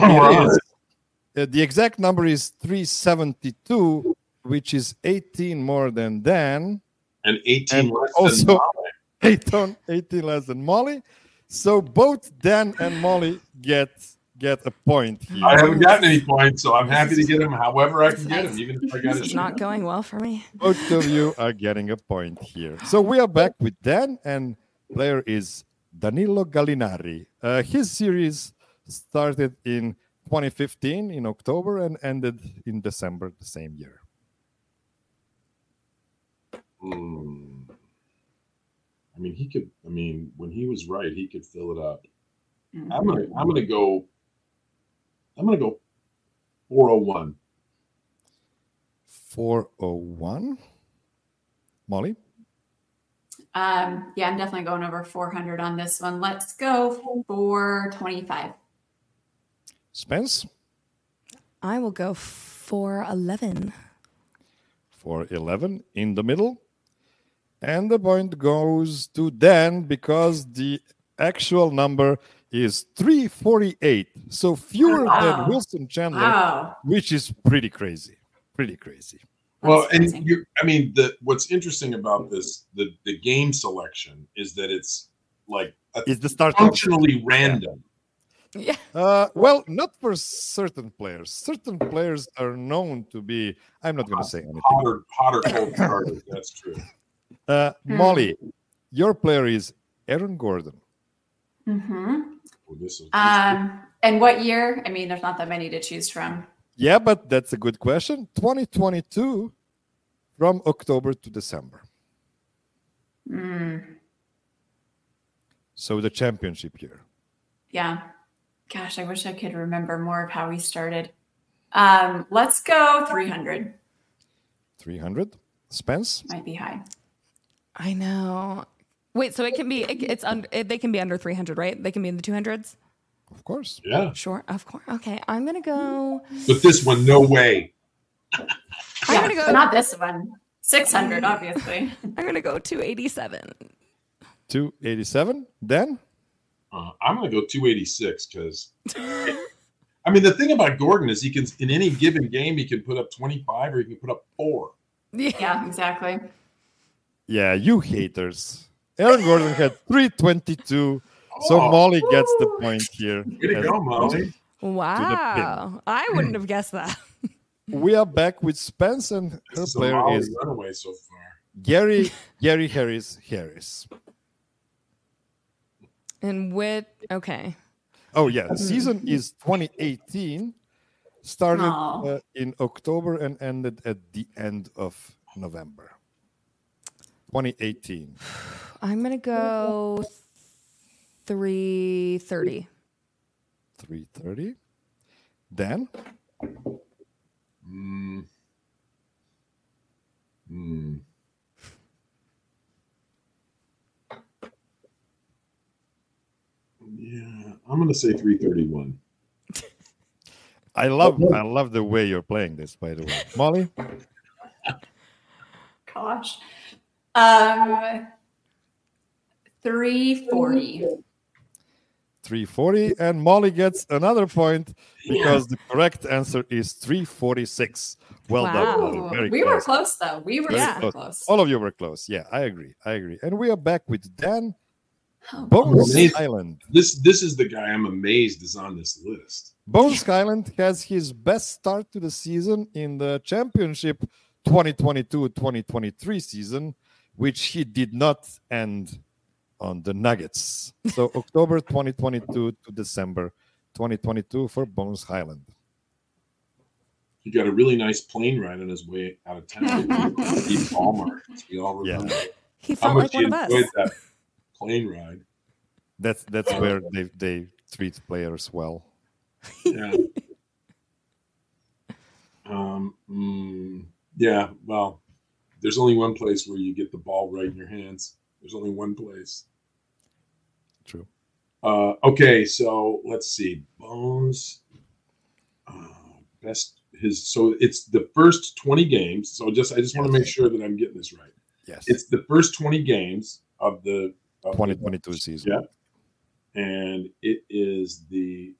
The exact number is 372, which is 18 more than Dan. And 18 less also than Molly. 18 less than Molly. So both Dan and Molly get a point here. I haven't gotten any points, so I'm happy to get them however I can get them, even if I got it. It's not going well for me. Both of you are getting a point here. So we are back with Dan, and player is Danilo Gallinari. His series started in 2015 in October and ended in December the same year. I mean, he could. I mean, when he was right, he could fill it up. I'm gonna go 401. 401. Molly? Yeah, I'm definitely going over 400 on this one. Let's go 425. Spence? I will go 411. 411 in the middle. And the point goes to Dan because the actual number is 348. So fewer than Wilson Chandler, which is pretty crazy. Pretty crazy. Well, and what's interesting about this, the game selection is that it's like it's the start functionally random. Yeah. Well, not for certain players. Certain players are known to be. I'm not going to say anything. Hotter cold starters. That's true. Molly, your player is Aaron Gordon. Mm-hmm. Oh, and what year? I mean, there's not that many to choose from. Yeah, but that's a good question. 2022 from October to December. So the championship year. Yeah. Gosh, I wish I could remember more of how we started. Let's go 300. 300. Spence? Might be high. I know. Wait, so it can be they can be under 300, right? They can be in the 200s? Of course. Yeah. Sure, of course. Okay, I'm going to go. But this one, no way. I'm going to go. Not this one. 600, obviously. I'm going to go 287. 287. Dan? I'm going to go 286 because, I mean, the thing about Gordon is he can, in any given game, he can put up 25 or he can put up 4. Yeah, exactly. Yeah, you haters. Aaron Gordon had 322. So Molly gets the point here. Way to go, Molly. Wow. I wouldn't have guessed that. We are back with Spence, and her player is runaway so far. Gary Harris. And okay. Oh, yeah. The season is 2018. Started in October and ended at the end of November. 2018. I'm going to go 330. 330. Dan? Yeah, I'm going to say 331. I love the way you're playing this, by the way. Molly? Gosh. 340. 340, and Molly gets another point because the correct answer is 346. Well done, Molly. Very we close. were close, though. We were close. All of you were close. Yeah, I agree. And we are back with Dan. Bones Island. This is the guy I'm amazed is on this list. Bones Island has his best start to the season in the championship 2022-2023 season, which he did not end on the Nuggets. So October 2022 to December 2022 for Bones Highland. He got a really nice plane ride on his way out of town. Steve Ballmer. We all remember he felt like one of us. That plane ride. That's where they treat players well. Yeah. Yeah. Well, there's only one place where you get the ball right in your hands. There's only one place. True. Okay, so let's see. Bones. So it's the first 20 games. So I just want to make sure that I'm getting this right. Yes. It's the first 20 games of the 2022 season. Yeah. And it is the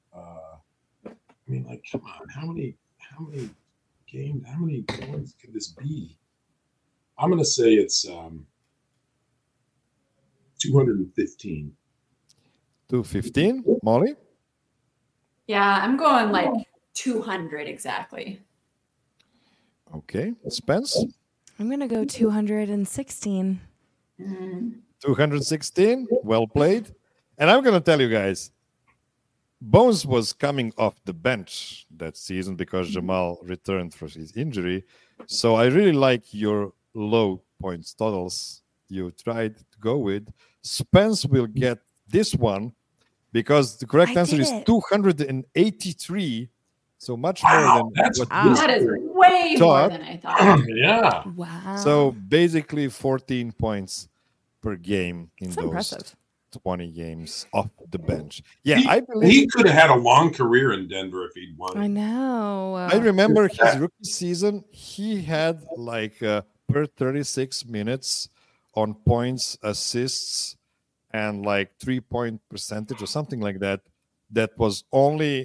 come on, how many games, how many points could this be? I'm gonna say it's 215. 215, Molly? Yeah, I'm going like 200 exactly. Okay. Spence? I'm going to go 216. 216, well played. And I'm going to tell you guys, Bones was coming off the bench that season because Jamal returned from his injury. So I really like your low points totals you tried to go with. Spence will get this one because the correct answer is 283. So much more than what that is way more than I thought. Yeah. Wow. So basically 14 points per game in That's those impressive. 20 games off the bench. Yeah, I believe he could have had a long career in Denver if he'd won. I know. I remember his rookie season, he had like per 36 minutes on points, assists, and like 3-point percentage or something like that. That was only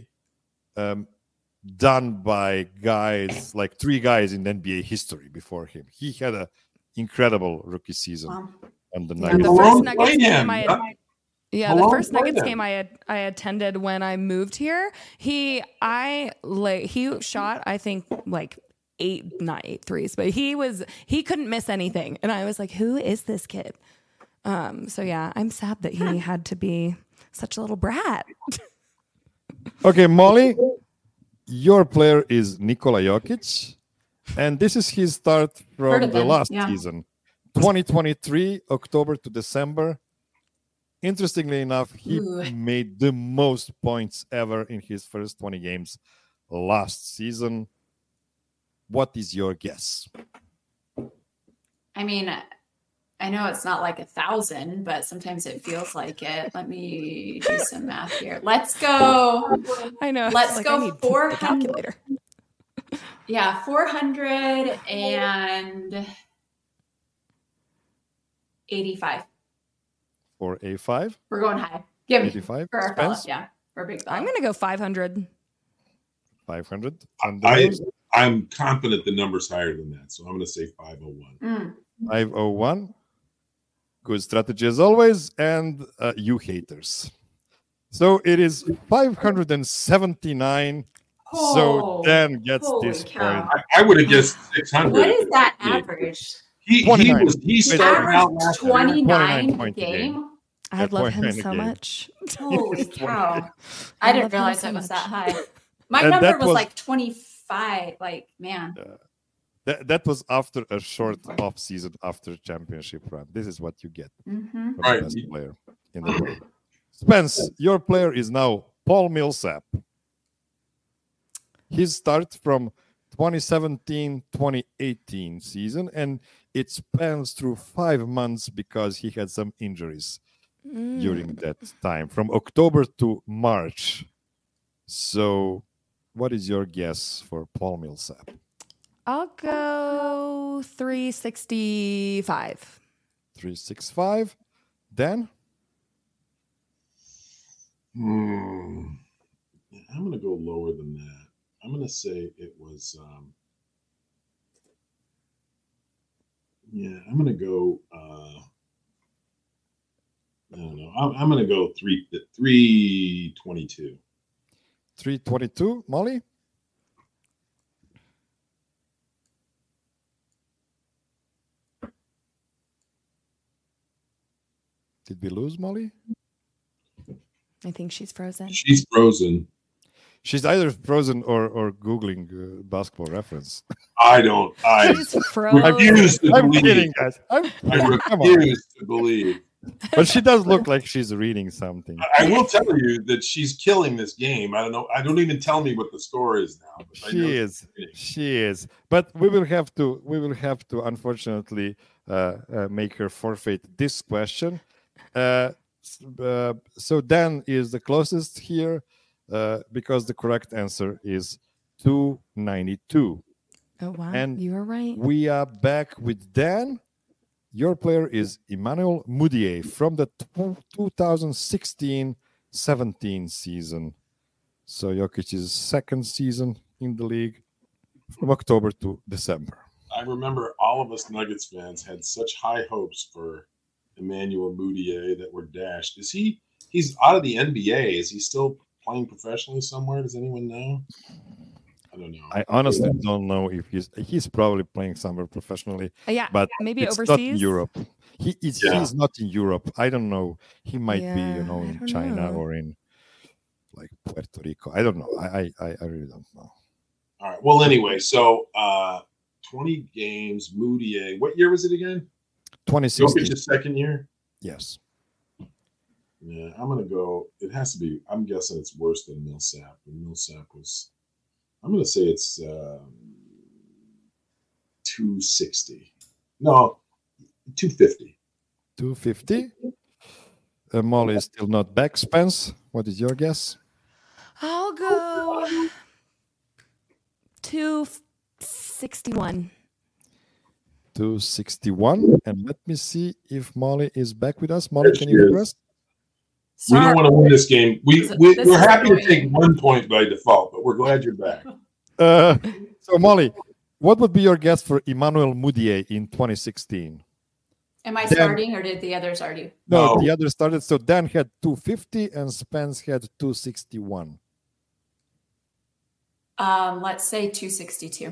done by guys, like 3 guys in NBA history before him. He had an incredible rookie season on the Nuggets. The first Nuggets game the first Nuggets game I attended when I moved here, he shot, I think, like 8 threes, but he couldn't miss anything. And I was like, who is this kid? So yeah, I'm sad that he had to be such a little brat. Okay, Molly, your player is Nikola Jokic, and this is his start from the last season, 2023, October to December. Interestingly enough, he made the most points ever in his first 20 games last season. What is your guess? I mean, I know it's not like 1,000, but sometimes it feels like it. Let me do some math here. Let's go. I know. Let's go 400. Calculator. Yeah, 400 and 85. For a 5? We're going high. Give me 85. for our Spence? fella. Yeah, for a big fella. I'm going to go 500. 500. I'm confident the number's higher than that, so I'm going to say 501. 501. Good strategy as always, and you haters. So it is 579. So Dan gets this point. I would have guessed 600. What is that average? He started out last 29 game. I love him so much. Holy cow! I didn't realize it was that high. My number was like 25. Like, man. That was after a short off season after championship run. This is what you get from the best player in the world. Spence, your player is now Paul Millsap. His start from 2017-2018 season, and it spans through 5 months because he had some injuries during that time, from October to March. So what is your guess for Paul Millsap? I'll go 365. 365. Dan? I'm going to go lower than that. I'm going to say it was, I'm going to go, I don't know. I'm going to go 322. 322, Molly? Did we lose Molly? I think she's frozen. She's frozen. She's either frozen or Googling basketball reference. She's frozen. I'm kidding, guys. I refuse to believe. But she does look like she's reading something. I will tell you that she's killing this game. I don't know. I don't even tell me what the score is now. She is. But we will have to unfortunately make her forfeit this question. So Dan is the closest here because the correct answer is 292. Oh, wow. And you are right. We are back with Dan. Your player is Emmanuel Mudiay from the 2016-17 season. So Jokic's second season in the league from October to December. I remember all of us Nuggets fans had such high hopes for Emmanuel Mudiay that were dashed. He's out of the NBA. Is he still playing professionally somewhere? Does anyone know? I don't know. I honestly don't know if he's probably playing somewhere professionally. Yeah, but maybe it's overseas. Not in Europe. He's not in Europe. I don't know. He might be, in China or in like Puerto Rico. I don't know. I really don't know. All right. Well, anyway, so 20 games, Mudiay. What year was it again? 2016. Jokic's second year? Yes. Yeah, I'm going to go. It has to be. I'm guessing it's worse than Millsap. And Millsap was, I'm going to say it's 260. No, 250. 250. Molly is still not back. Spence, what is your guess? I'll go 261. 261. And let me see if Molly is back with us. Molly, can you hear us? We don't want to win this game. We're happy to take 1 point by default, but we're glad you're back. So, Molly, what would be your guess for Emmanuel Mudiay in 2016? Am I starting or did the others already? No, the others started. So Dan had 250 and Spence had 261. Let's say 262.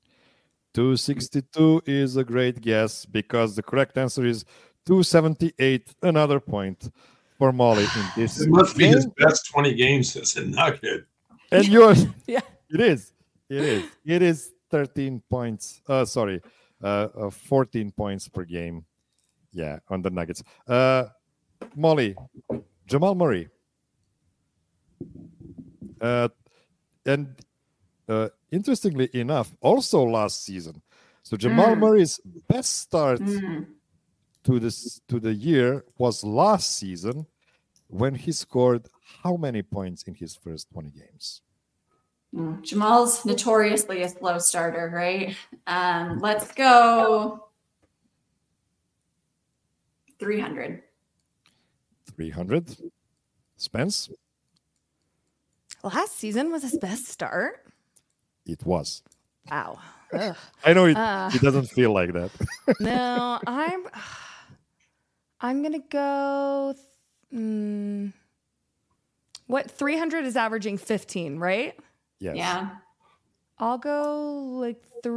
262 is a great guess because the correct answer is 278. Another point for Molly in this. It must be his best 20 games as a Nugget. And yours, it is. It is 13 points. 14 points per game. Yeah, on the Nuggets. Molly, Jamal Murray. And interestingly enough, also last season. So Jamal Murray's best start to the year was last season when he scored how many points in his first 20 games? Jamal's notoriously a slow starter, right? Let's go 300. 300. Spence? Last season was his best start. It was. Wow. Ugh. I know it doesn't feel like that. No, I'm gonna go. What 300 is averaging 15, right? Yes. Yeah. I'll go like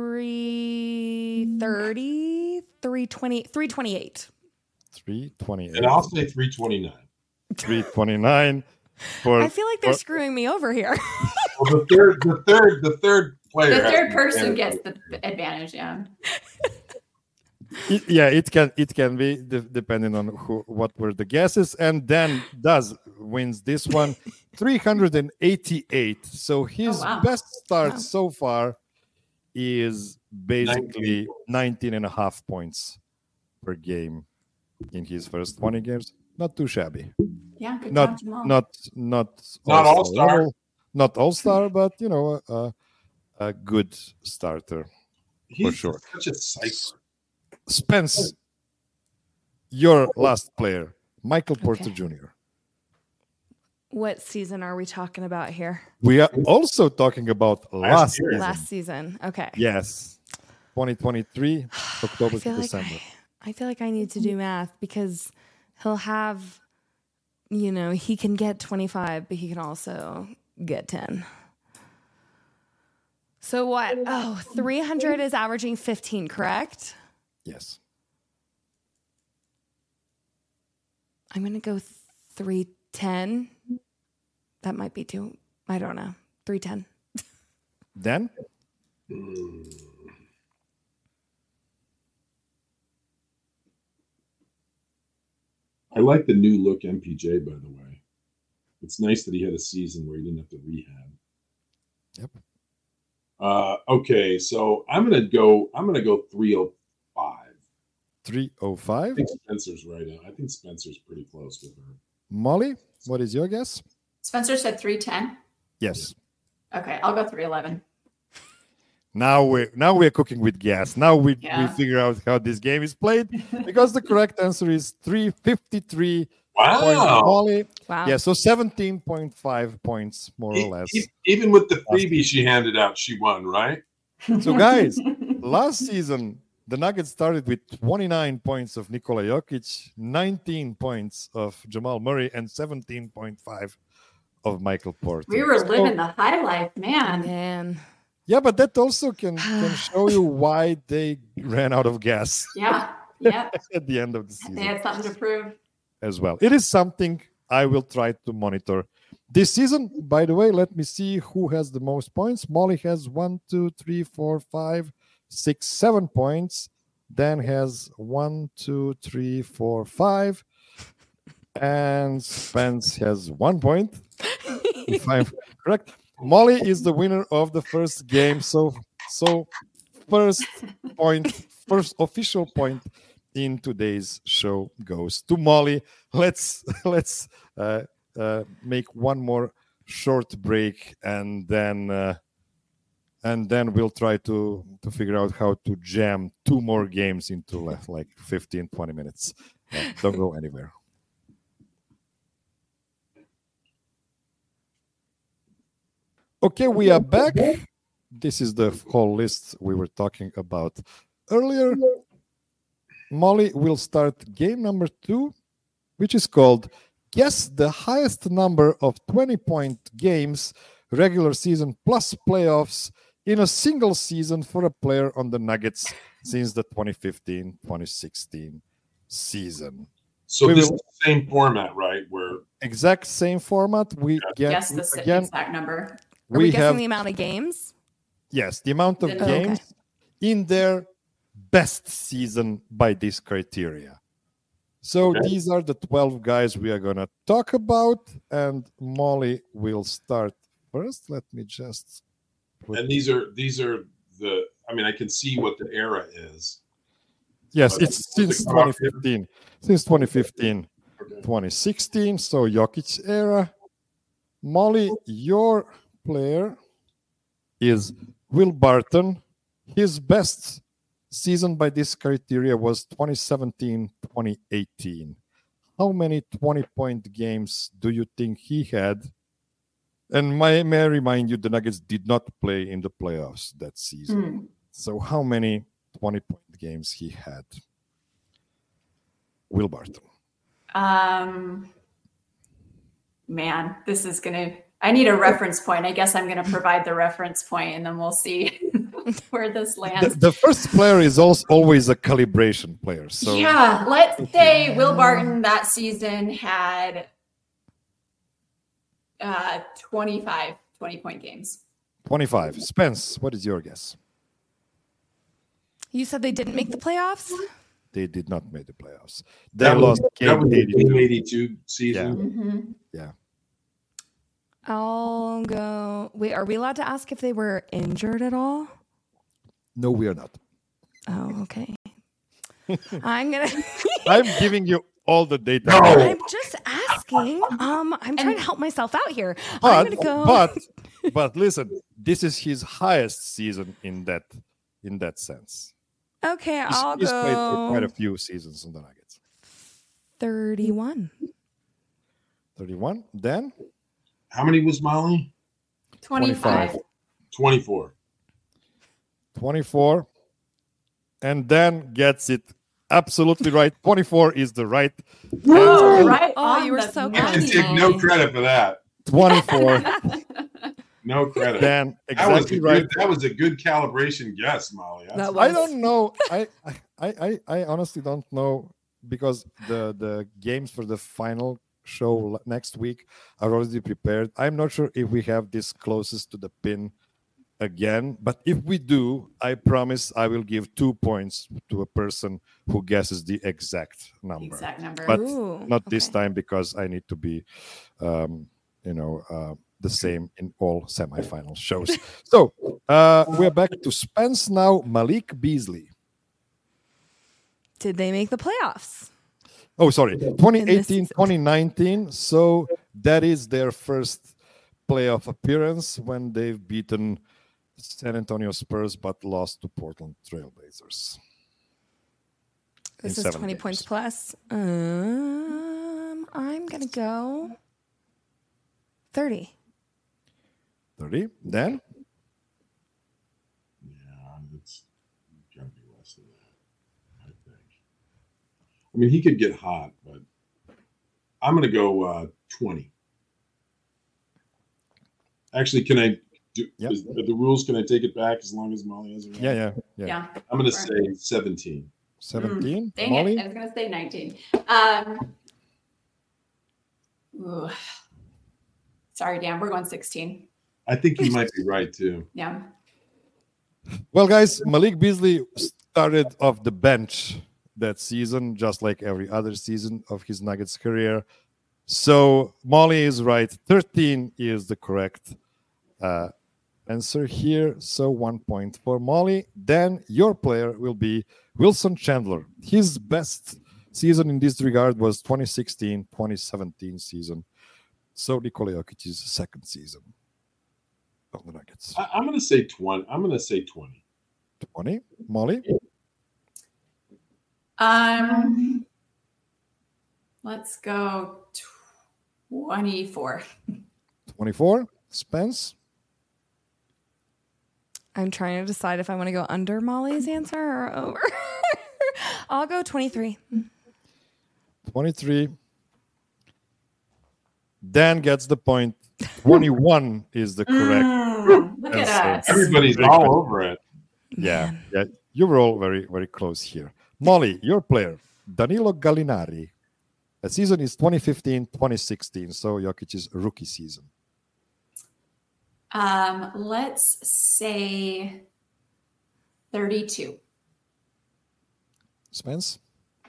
330, 320, 328. 328. And I'll say 329. 329. I feel like they're screwing me over here. Well, the third player. The third person gets the advantage. Yeah. It can be depending on what were the guesses, and Dan wins this one, 388. So his best start so far is basically 19.5 points per game in his first 20 games. Not too shabby. Yeah, good Not all-star. Not all-star, but a good starter. He's for sure. Such a cipher. Spence, your last player, Michael Porter Jr. What season are we talking about here? We are also talking about last season. Last season. Okay. Yes. 2023, October to December. I feel like I need to do math because he'll have, he can get 25, but he can also get 10. So what? 300 is averaging 15, correct? Yes. I'm going to go 310. That might be too, I don't know. 310. Dan? I like the new look MPJ, by the way. It's nice that he had a season where he didn't have to rehab. Yep. Okay, so I'm gonna go 305. 305. I think Spencer's right. I think Spencer's pretty close with her. Molly, what is your guess? Spencer said 310. Yes. Okay, I'll go 311. Now we're cooking with gas. Now we figure out how this game is played because the correct answer is 353. Wow. Molly. Wow. Yeah, so 17.5 points more or less. Even with the freebie she handed out, she won, right? So guys, last season the Nuggets started with 29 points of Nikola Jokic, 19 points of Jamal Murray, and 17.5 of Michael Porter. We were living the high life, man. Yeah, but that also can show you why they ran out of gas. Yeah. At the end of the season. They had something to prove. As well. It is something I will try to monitor this season. By the way, let me see who has the most points. Molly has 1, 2, 3, 4, 5, 6, 7 points. Dan has 1, 2, 3, 4, 5. And Spence has 1 point. If I'm correct. Molly is the winner of the first game. So first official point in today's show goes to Molly. Let's make one more short break, and then we'll try to figure out how to jam 2 more games into like 15-20 minutes. Don't go anywhere. Okay, we are back. This is the whole list we were talking about earlier. Molly will start game number 2, which is called Guess the Highest Number of 20-point games, regular season plus playoffs in a single season for a player on the Nuggets since the 2015-2016 season. So this is the same format, right? Where exact same format. We guess the exact number. Are we guessing the amount of games? Yes, the amount of games in their best season by this criteria. So these are the 12 guys we are going to talk about, and Molly will start first. Let me just and these are the, I mean, I can see what the era is. Yes, it's since 2015. Since 2015, 2016, so Jokic era. Molly, your player is Will Barton. His best season by this criteria was 2017-2018. How many 20-point games do you think he had? And may I remind you, the Nuggets did not play in the playoffs that season. So how many 20-point games he had? Will Barton. Man, this is I need a reference point. I guess I'm going to provide the reference point, and then we'll see where this lands. The first player is also always a calibration player. So yeah, let's say Will Barton that season had 25 20-point games. 25. Spence, what is your guess? You said they didn't make the playoffs? They did not make the playoffs. They lost game 82 season. Yeah. I'll go. Wait, are we allowed to ask if they were injured at all? No, we are not. Oh, okay. I'm giving you all the data. No. I'm just asking. I'm trying to help myself out here. I'm gonna go. But listen, this is his highest season in that sense. Okay, He's played for quite a few seasons in the Nuggets. 31. 31. Dan? How many was Molly? 25. 24. 24. And Dan gets it absolutely right. 24 is the right Whoa, answer. right. Oh, you were so I can close. take no credit for that. 24. No credit. Dan, exactly right. That was a good calibration guess, Molly. That was. I don't know. I honestly don't know, because the games for the final show next week are already prepared. I'm not sure if we have this closest to the pin again, but if we do, I promise I will give 2 points to a person who guesses the exact number. But not this time, because I need to be the same in all semifinal shows. So we're back to Spence now. Malik Beasley. Did they make the playoffs? Oh, sorry. 2018, 2019. So that is their first playoff appearance, when they've beaten San Antonio Spurs but lost to Portland Trailblazers. This is 20 games. points plus. I'm going to go 30. 30. Dan? Yeah, it's got to be less than that, I think. I mean, he could get hot, but I'm going to go 20. Actually, can I do the rules? Can I take it back as long as Molly has it? Yeah. I'm going to say 17. 17. Dang Molly? it. I was going to say 19. Sorry, Dan. We're going 16. I think you might be right, too. Yeah. Well, guys, Malik Beasley started off the bench that season, just like every other season of his Nuggets career. So Molly is right. 13 is the correct answer here. So 1 point for Molly. Then your player will be Wilson Chandler. His best season in this regard was 2016-2017 season. So Nikola Jokic's second season of the Nuggets. I'm going to say 20. I'm going to say 20. 20. Molly? Let's go 24. 24. Spence? I'm trying to decide if I want to go under Molly's answer or over. I'll go 23. 23. Dan gets the point. 21 is the correct Look at us. Everybody's all over it. Yeah. You were all very, very close here. Molly, your player, Danilo Gallinari. The season is 2015-2016, so Jokic's rookie season. Let's say 32. Spence?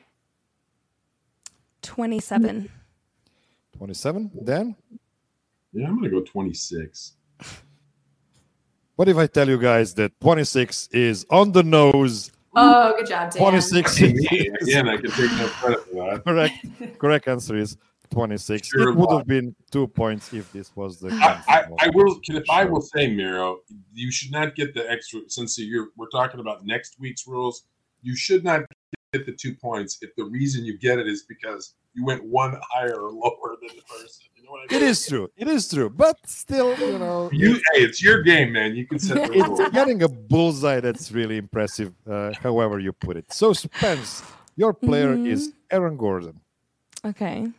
27. 27. Dan? Yeah, I'm going to go 26. What if I tell you guys that 26 is on the nose? Oh, good job, Dan. 26. Again, I can take no credit for that. Correct answer is 26. Sure it would have been 2 points if this was the. I will say, Miro, you should not get the extra, since we're talking about next week's rules. you should not get the 2 points if the reason you get it is because you went one higher or lower than the person. You know what I mean? It is true. It is true. But still, hey, it's your game, man. You can set the rules. It's getting a bullseye that's really impressive, however you put it. So, Spence, your player is Aaron Gordon. Okay.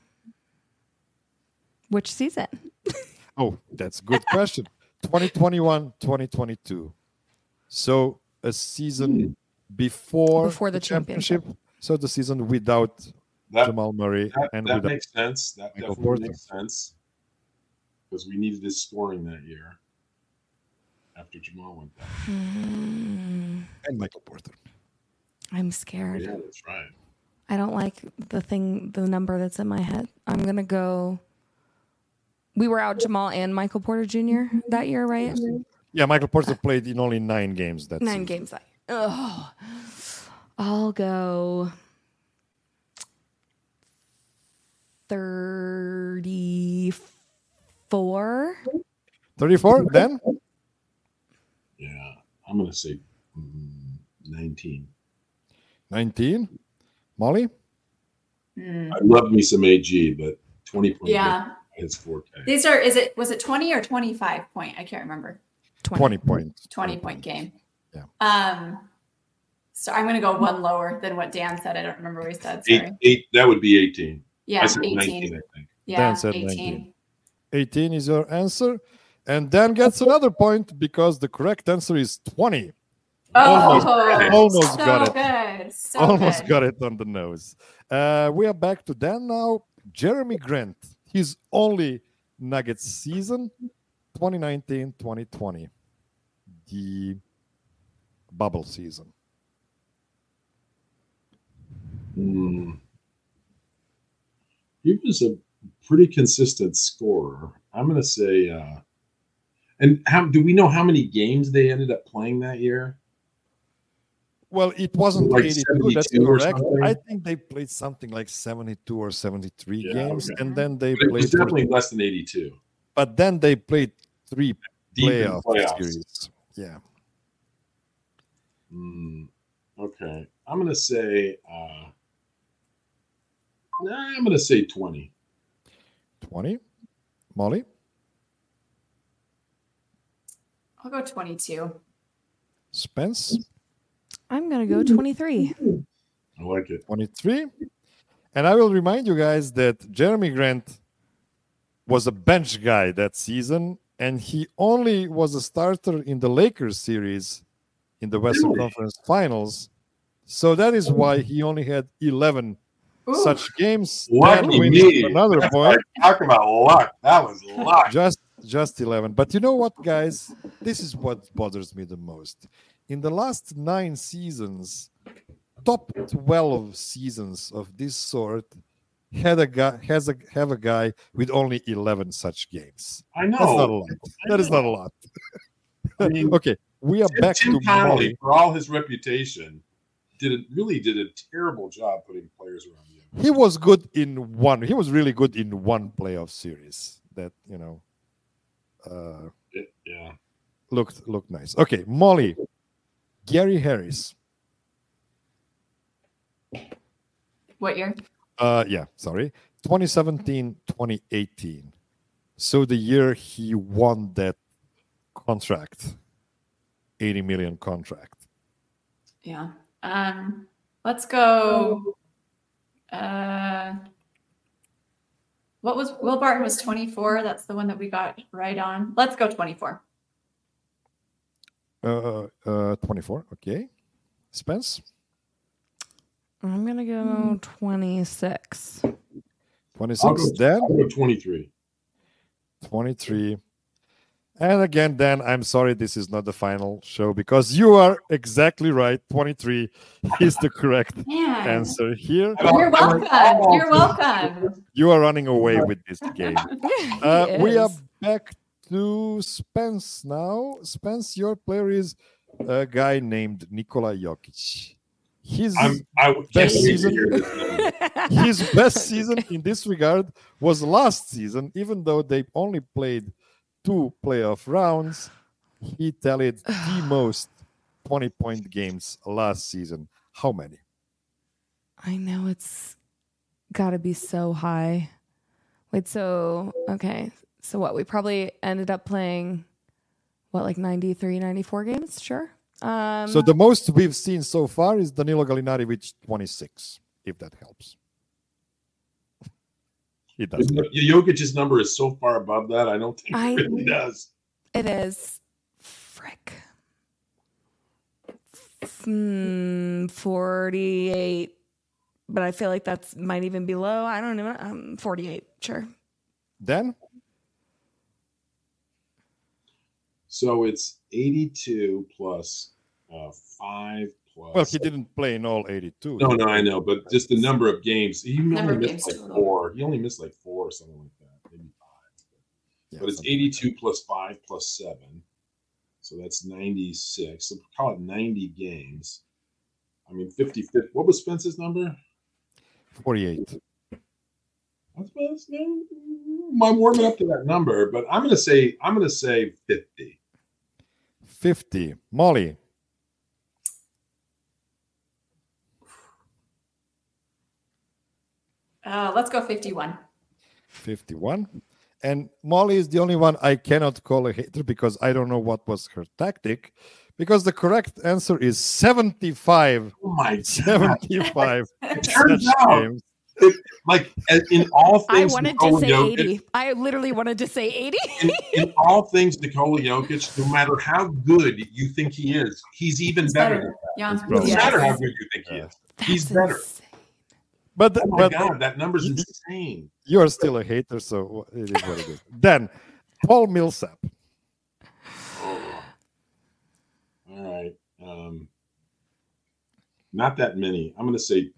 Which season? Oh, that's a good question. 2021, 2022. So a season before the championship. So the season without Jamal Murray. That makes sense. That definitely makes sense. Because we needed his scoring that year after Jamal went down. And Michael Porter. I'm scared. Yeah, that's right. I don't like the number that's in my head. I'm going to go... We were out Jamal and Michael Porter Jr. that year, right? Yeah, Michael Porter played in only 9 games. That 9 season. games that year. Oh, I'll go 34. 34, then? Yeah, I'm going to say 19. 19. Molly? I love me some AG, but 20 points. Yeah. His 4K. Was it 20 or 25 point? I can't remember. 20 points. 20 point game. Yeah. So I'm going to go one lower than what Dan said. I don't remember what he said. Sorry. 8, that would be 18. Yeah, I said 18. 19, I think. Yeah, Dan said 18. 19. 18 is your answer. And Dan gets another point because the correct answer is 20. Almost got it. Good. So Almost good. got it on the nose. We are back to Dan now. Jeremy Grant. His only Nuggets season, 2019-2020. The bubble season. He was a pretty consistent scorer. I'm going to say, and do we know how many games they ended up playing that year? Well, it wasn't Like 82, that's 72 or correct. something? I think they played something like 72 or 73 games, okay. and then they But it was played. definitely less than 82. But then they played 3 Deep in playoff series. Yeah. Okay. I'm going to say, 20. 20. Molly? I'll go 22. Spence? I'm going to go 23. I like it. 23. And I will remind you guys that Jeremy Grant was a bench guy that season, and he only was a starter in the Lakers series in the Western Conference Finals. So that is why he only had 11 such games. Lucky me. Another That's point. Talk about luck. That was luck. Just 11. But you know what, guys? This is what bothers me the most. In the last 9 seasons, top 12 seasons of this sort have a guy with only 11 such games. I know. That's not a lot. That is not a lot. I mean, okay, we are back Tim to Connolly, Molly. for all his reputation, did a terrible job putting players around you. He was good in one. He was really good in one playoff series that looked nice. Okay, Molly, Gary Harris. What year? 2017, 2018. So the year he won that contract, 80 million contract. Yeah. Let's go. What was Will Barton was 24. That's the one that we got right on. Let's go 24. 24. Okay. Spence? I'm going to go 26. 26. Dan? I'll go 23. 23. And again, Dan, I'm sorry this is not the final show because you are exactly right. 23 is the correct answer here. You're welcome. You're welcome. You are running away with this game. We are back to Spence now. Spence, your player is a guy named Nikola Jokic. His best season in this regard was last season, even though they only played 2 playoff rounds. He tallied the most 20-point games last season. How many? I know it's got to be so high. Wait, so, okay. So what? We probably ended up playing, like 93, 94 games? Sure. So the most we've seen so far is Danilo Gallinari with 26, if that helps. It does. Jokic's number is so far above that, I don't think it really does. It is. Frick. 48. But I feel like that's might even be low. I don't know. 48, sure. Dan? So it's 82 plus 5 plus. Well, he didn't play in all 82. No, I know, but just the number of games. He Number only of missed games like total. 4. He only missed like 4 or something like that, maybe 5. Yeah, But it's something like 82 plus 5 plus 7. So that's 96. So call it 90 games. I mean, 50. What was Spence's number? 48. I'm warming up to that number, but I'm gonna say 50. 50. Molly? Let's go 51. 51. And Molly is the only one I cannot call a hater because I don't know what was her tactic. Because the correct answer is 75. Oh my God. 75. It turns such out, games. like in all I things, wanted to Nikola say Jokic, 80. I literally wanted to say 80. in all things, Nikola Jokic, no matter how good you think he is, he's even better. than that. Yeah. It's No probably- matter how good you think he is, he's better. Insane. But, Oh my God, that number's insane. you're still a hater, so it is what it is. Then, Paul Millsap. All right. Not that many. I'm gonna say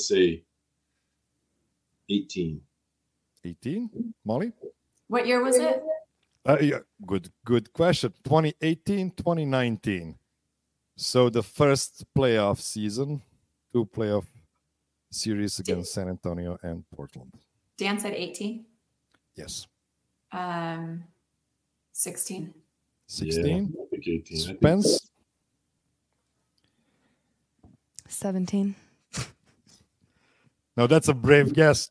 18. 18. Molly? What year was it? Yeah, good question. 2018, 2019. So the first playoff season, 2 playoff series against San Antonio and Portland. Dan said 18. Yes. 16. 16. Yeah, I think 18. Spence? 17. Now that's a brave guess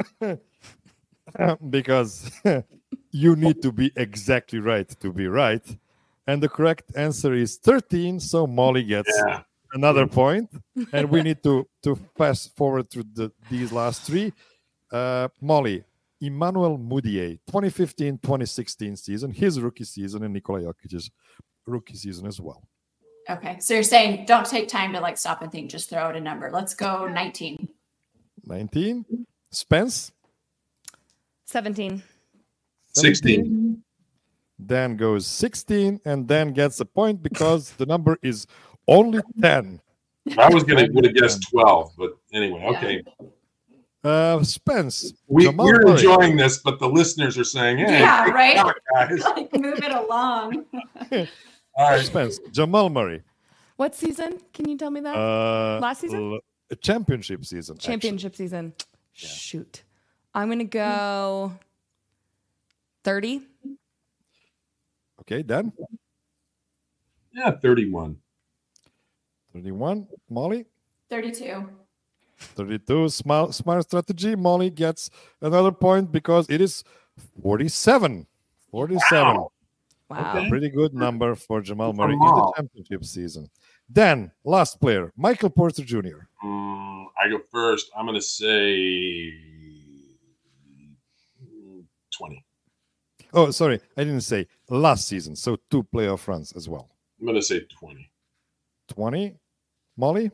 because you need to be exactly right to be right. And the correct answer is 13. So Molly gets another point. And we need to fast forward through these last 3. Molly, Emmanuel Mudiay, 2015-2016 season, his rookie season, and Nikola Jokic's rookie season as well. Okay. So you're saying don't take time to stop and think, just throw out a number. Let's go 19. 19. Spence? 17. 16. Dan goes 16 and Dan gets a point because the number is only 10. I would have guessed 12, but anyway, okay. Spence. We're Murray. enjoying this, but the listeners are saying, "Hey, Yeah, right? come on, guys." Move it along. All right. Spence. Jamal Murray. What season? Can you tell me that? Last season? Championship season. Championship season. Yeah. Shoot. I'm going to go 30. Okay, Dan. Yeah, 31. 31. Molly. 32. 32. Smart strategy. Molly gets another point because it is 47. 47. Wow. Okay. Pretty good number for Jamal Murray in the championship season. Then, last player, Michael Porter Jr. I go first. I'm going to say 20. Oh, sorry. I didn't say last season. So 2 playoff runs as well. I'm going to say 20. 20. Molly?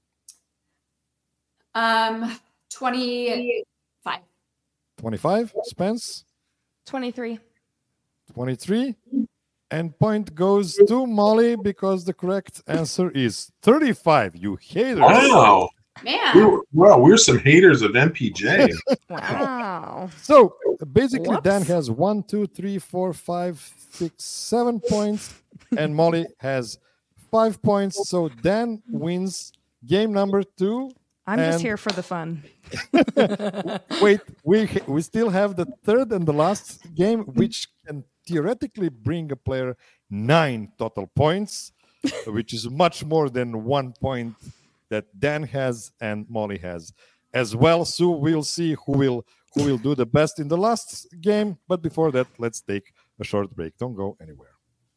25. 25. Spence? 23. 23. And point goes to Molly because the correct answer is 35. You haters. Wow. Man. We're some haters of MPJ. Wow. So basically, Whoops. Dan has 1, 2, 3, 4, 5, 6, 7 points, and Molly has 5 points. So Dan wins game number 2. I'm just here for the fun. Wait, we still have the third and the last game, which can theoretically bring a player 9 total points, which is much more than 1 point that Dan has and Molly has as well. So we'll see who will do the best in the last game. But before that, let's take a short break. Don't go anywhere.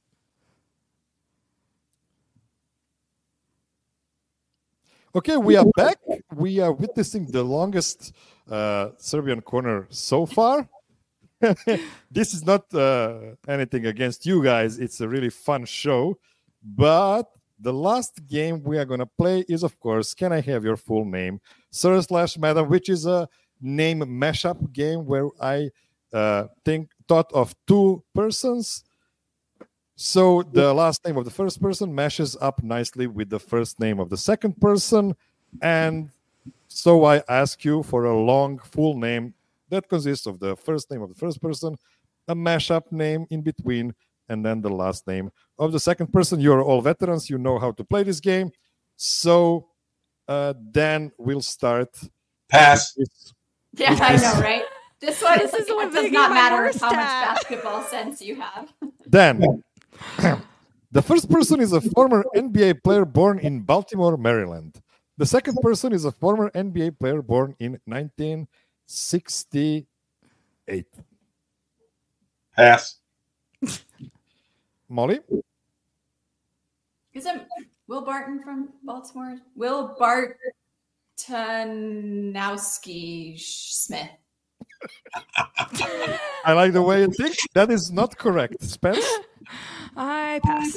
Okay, we are back. We are witnessing the longest Serbian corner so far. This is not anything against you guys. It's a really fun show. But the last game we are going to play is, of course, Can I Have Your Full Name? Sir/Madam, which is a name mashup game where I thought of two persons. So the last name of the first person matches up nicely with the first name of the second person. And so I ask you for a long full name that consists of the first name of the first person, a mashup name in between, and then the last name of the second person. You're all veterans. You know how to play this game. So then we'll start. Pass. Yeah, I know, right? This one This is the one it does making not my matter worst how much at. basketball sense you have. Dan. The first person is a former NBA player born in Baltimore, Maryland. The second person is a former NBA player born in 1968. Pass. Molly? Isn't Will Barton from Baltimore? Will Bartonowski Smith. I like the way you think. That is not correct. Spence? I pass.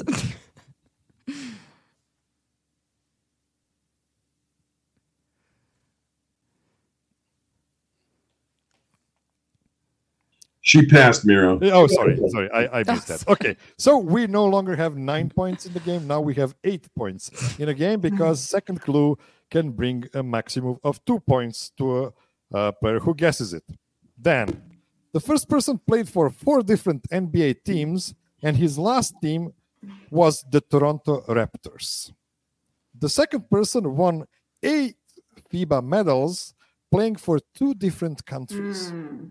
She passed, Miro. Oh, sorry. I missed that. Okay, so we no longer have 9 points in the game. Now we have 8 points in a game because second clue can bring a maximum of 2 points to a player who guesses it. Then, the first person played for 4 different NBA teams, and his last team was the Toronto Raptors. The second person won 8 FIBA medals playing for 2 different countries.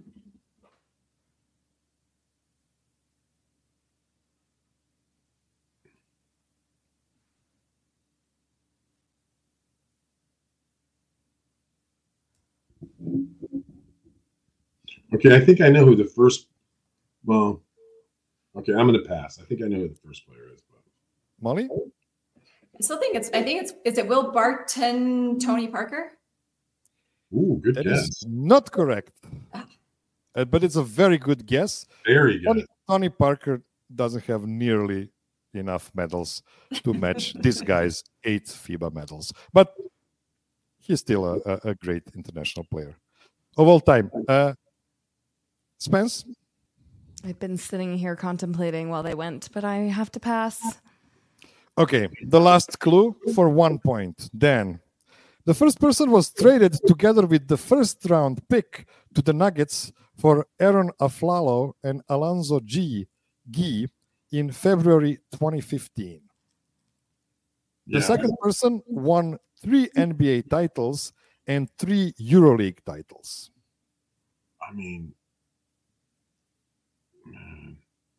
Okay, I think I know who the first. Well, okay, I'm going to pass. I think I know who the first player is. But Molly? I think it's is it Will Barton, Tony Parker? ooh, good That guess. is not correct. But it's a very good guess. Very good. Tony Parker doesn't have nearly enough medals to match this guy's 8 FIBA medals. But he's still a great international player of all time. Spence? I've been sitting here contemplating while they went, but I have to pass. Okay, the last clue for 1 point. Dan. The first person was traded together with the first round pick to the Nuggets for Aaron Aflalo and Alonzo Gee in February 2015. The second person won 3 NBA titles and 3 EuroLeague titles. I mean, man.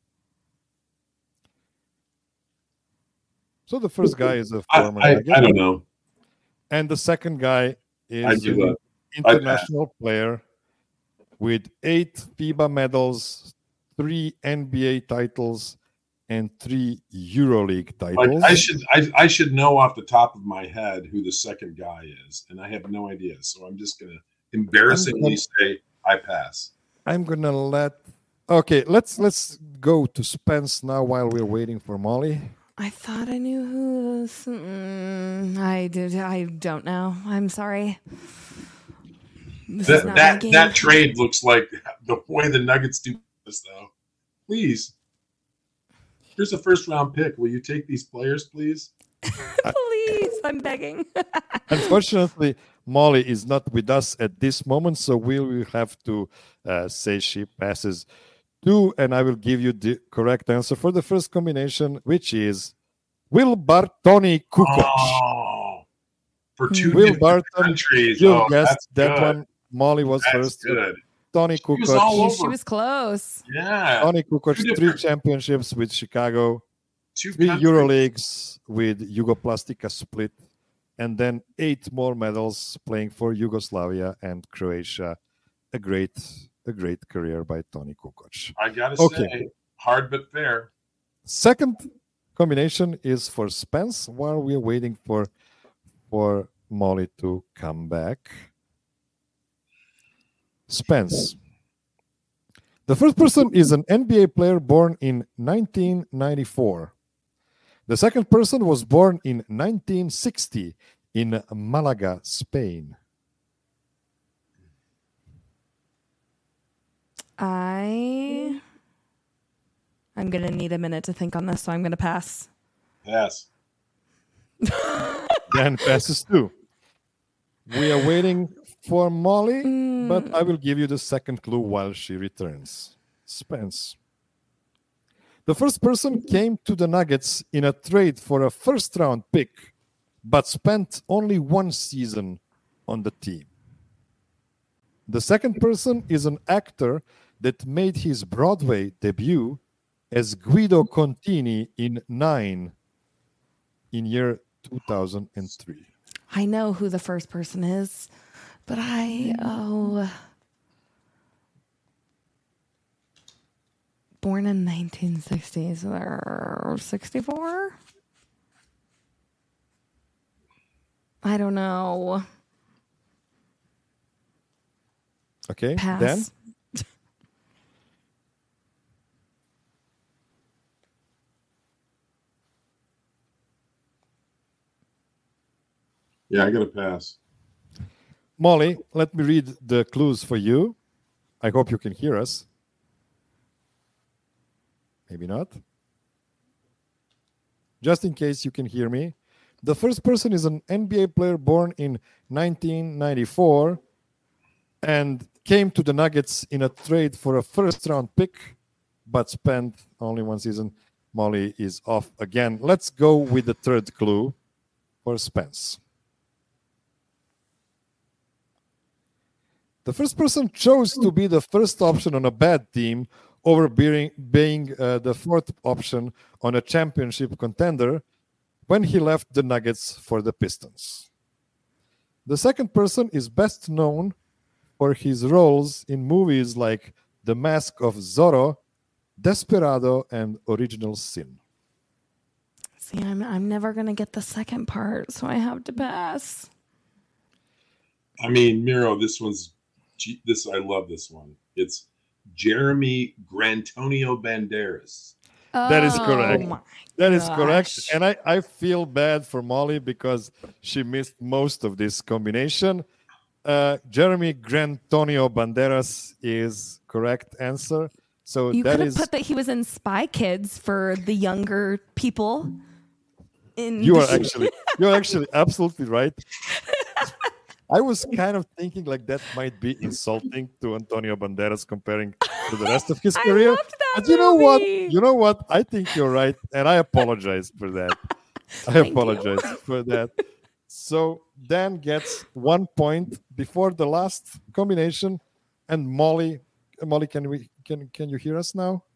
So the first guy is a I former Nugget, don't know. and the second guy I is give an up. international player with 8 FIBA medals, 3 NBA titles, and 3 EuroLeague titles. Like I should know off the top of my head who the second guy is, and I have no idea. So I'm just gonna embarrassingly say I pass. I'm gonna let. Okay, let's go to Spence now while we're waiting for Molly. I thought I knew who this. I don't know. I'm sorry. This is not my game. That trade looks like the way the Nuggets do this, though. Please, here's a first round pick. Will you take these players, please? Please, I'm begging. Unfortunately, Molly is not with us at this moment, so we will have to say she passes too, and I will give you the correct answer for the first combination, which is Will Bartoni Kukoc. Oh, for 2 Will different Barton, countries. you Oh, guessed that's that good. one. Molly was That's first. good. Tony She was all Kukoc. over. She was close. Yeah. Tony Kukoc, 2 3 different- championships with Chicago, 2 3 countries. EuroLeagues with Jugoplastica Split, and then 8 more medals playing for Yugoslavia and Croatia. A great career by Toni Kukoc. I gotta say, hard but fair. Second combination is for Spence while we are waiting for Molly to come back. Spence. The first person is an NBA player born in 1994. The second person was born in 1960 in Malaga, Spain. I'm going to need a minute to think on this, so I'm going to pass. Pass. Dan passes too. We are waiting for Molly, but I will give you the second clue while she returns. Spence. The first person came to the Nuggets in a trade for a first-round pick, but spent only 1 season on the team. The second person is an actor that made his Broadway debut as Guido Contini in 9 in year 2003. I know who the first person is, but born in 1960s, so they're 64? I don't know. Okay, pass. Dan? Yeah, I got to pass. Molly, let me read the clues for you. I hope you can hear us. Maybe not. Just in case you can hear me. The first person is an NBA player born in 1994 and came to the Nuggets in a trade for a first-round pick, but spent only 1 season. Molly is off again. Let's go with the third clue for Spence. The first person chose to be the first option on a bad team over being the fourth option on a championship contender when he left the Nuggets for the Pistons. The second person is best known for his roles in movies like The Mask of Zorro, Desperado, and Original Sin. See, I'm never going to get the second part, so I have to pass. I mean, Miro, I love this one. It's Jeremy Grantonio Banderas. That is correct. That is correct. Gosh. And I feel bad for Molly because she missed most of this combination. Jeremy Grantonio Banderas is correct answer. So you that could have is put that he was in Spy Kids for the younger people. you are actually absolutely right. I was kind of thinking like that might be insulting to Antonio Banderas comparing to the rest of his career. I loved that But you know what? movie. You know what? I think you're right, and I apologize for that. For that. So Dan gets 1 point before the last combination, and Molly, can you hear us now?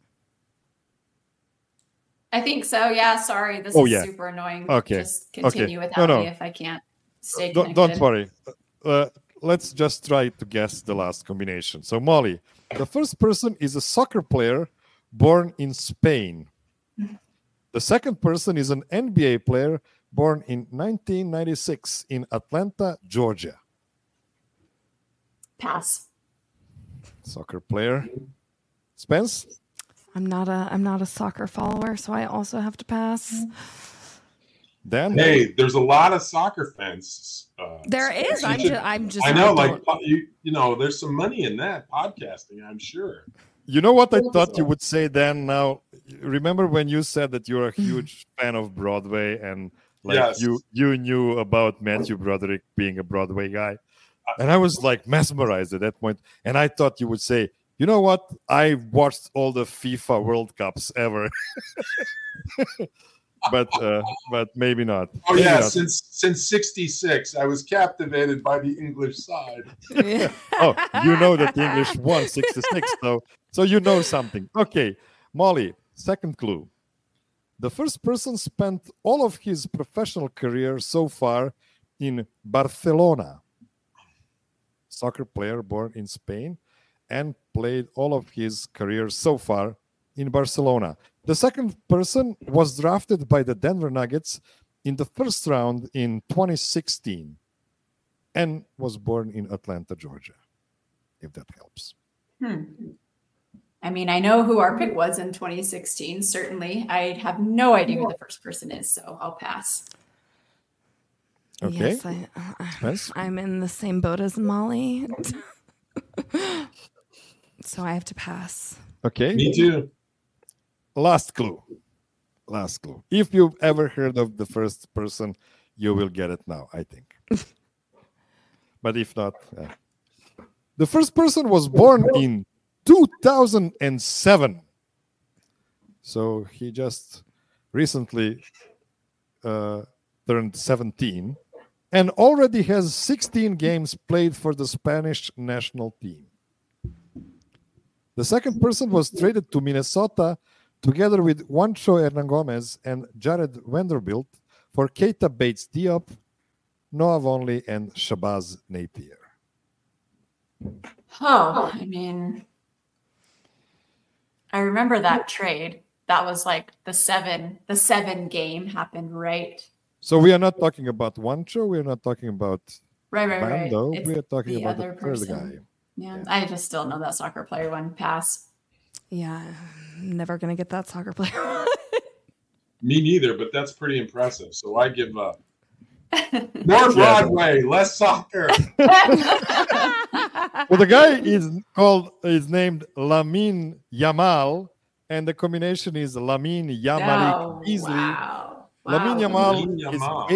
I think so. Yeah. Sorry. This is super annoying. Okay. Just continue without me if I can't stay connected. Don't worry. Let's just try to guess the last combination. So Molly, the first person is a soccer player born in Spain. The second person is an NBA player born in 1996 in Atlanta, Georgia. Pass. Soccer player. Spence? I'm not a soccer follower, so I also have to pass. Dan? Hey, there's a lot of soccer fans. There is. I'm just. I know, there's some money in that podcasting, I'm sure. You know what I thought you would say, Dan? Now, remember when you said that you're a huge fan of Broadway and you knew about Matthew Broderick being a Broadway guy? And I was like mesmerized at that point. And I thought you would say, you know what? I watched all the FIFA World Cups ever. but maybe not. Oh, maybe yeah. not. Since 66, I was captivated by the English side. Oh, you know that the English won 66, so you know something. Okay, Molly, second clue. The first person spent all of his professional career so far in Barcelona. Soccer player born in Spain and played all of his career so far in Barcelona. The second person was drafted by the Denver Nuggets in the first round in 2016 and was born in Atlanta, Georgia, if that helps. I mean, I know who our pick was in 2016, certainly. I have no idea who the first person is, so I'll pass. Okay. Yes, I'm in the same boat as Molly. So I have to pass. Okay. Me too. Last clue. If you've ever heard of the first person, you will get it now, I think. But if not, the first person was born in 2007. So he just recently turned 17 and already has 16 games played for the Spanish national team. The second person was traded to Minnesota together with Juancho Hernan Gomez and Jared Vanderbilt for Keita Bates-Diop, Noah Vonleh, and Shabazz Napier. Oh, I mean, I remember that trade. That was like the seven game happened, right? So we are not talking about Juancho. We are not talking about Right. Bando. It's We are talking the about other the third person. guy. Yeah, I just still know that soccer player one. Pass. Yeah, I'm never going to get that soccer player. Me neither, but that's pretty impressive. So I give up. More Broadway, less soccer. Well, the guy is named Lamine Yamal, and the combination is Lamine Yamal Beasley. Wow. Lamine Lamine Yamal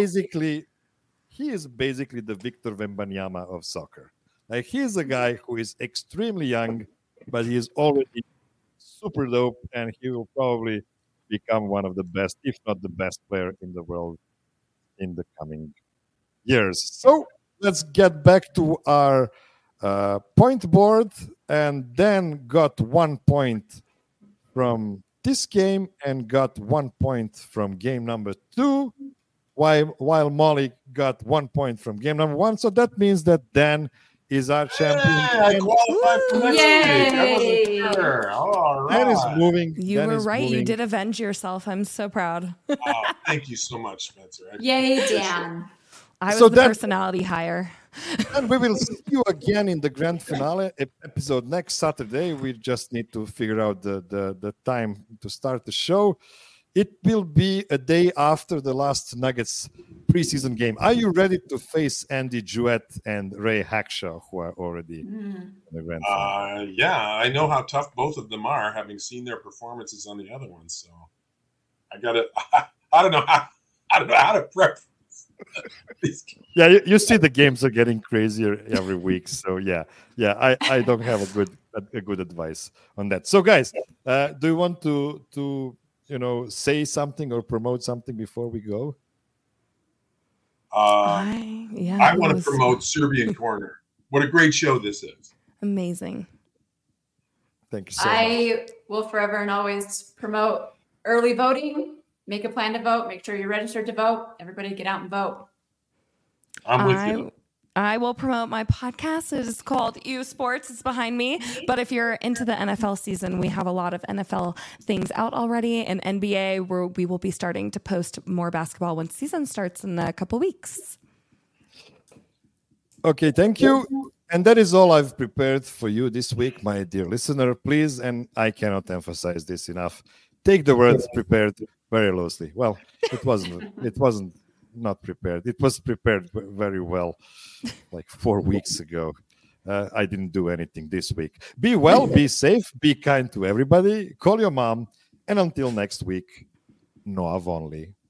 is basically the Victor Wembanyama of soccer. Like, he's a guy who is extremely young, but he is already super dope, and he will probably become one of the best, if not the best player in the world in the coming years. So let's get back to our point board, and then got 1 point from this game and got 1 point from game number 2, while Molly got 1 point from game number 1. So that means that Dan is our champion. I qualified for next week. I wasn't sure. All right. Dan is moving. You Dan were is right. You moving. did avenge yourself. I'm so proud. Oh, thank you so much, Spencer. Yay, Dan. I was So the that- personality hire. And we will see you again in the grand finale episode next Saturday. We just need to figure out the time to start the show. It will be a day after the last Nuggets preseason game. Are you ready to face Andy Jewett and Ray Hackshaw, who are already in the grand finale? Yeah, I know how tough both of them are, having seen their performances on the other ones. So I don't know how to prep these games. Yeah, you see the games are getting crazier every week. So yeah, I don't have a good advice on that. So guys, do you want to say something or promote something before we go? I want to promote Serbian Corner. What a great show this is. Amazing. Thank you so much. I will forever and always promote early voting. Make a plan to vote. Make sure you're registered to vote. Everybody get out and vote. I'm with you. I will promote my podcast. It is called U Sports. It's behind me. But if you're into the NFL season, we have a lot of NFL things out already. And NBA, where we will be starting to post more basketball when season starts in a couple weeks. Okay, thank you. And that is all I've prepared for you this week, my dear listener. Please, and I cannot emphasize this enough, take the word prepared very loosely. Well, it wasn't not prepared. It was prepared very well, like 4 weeks ago. I didn't do anything this week. Be well, be safe, be kind to everybody. Call your mom. And until next week, Noah Vonleh.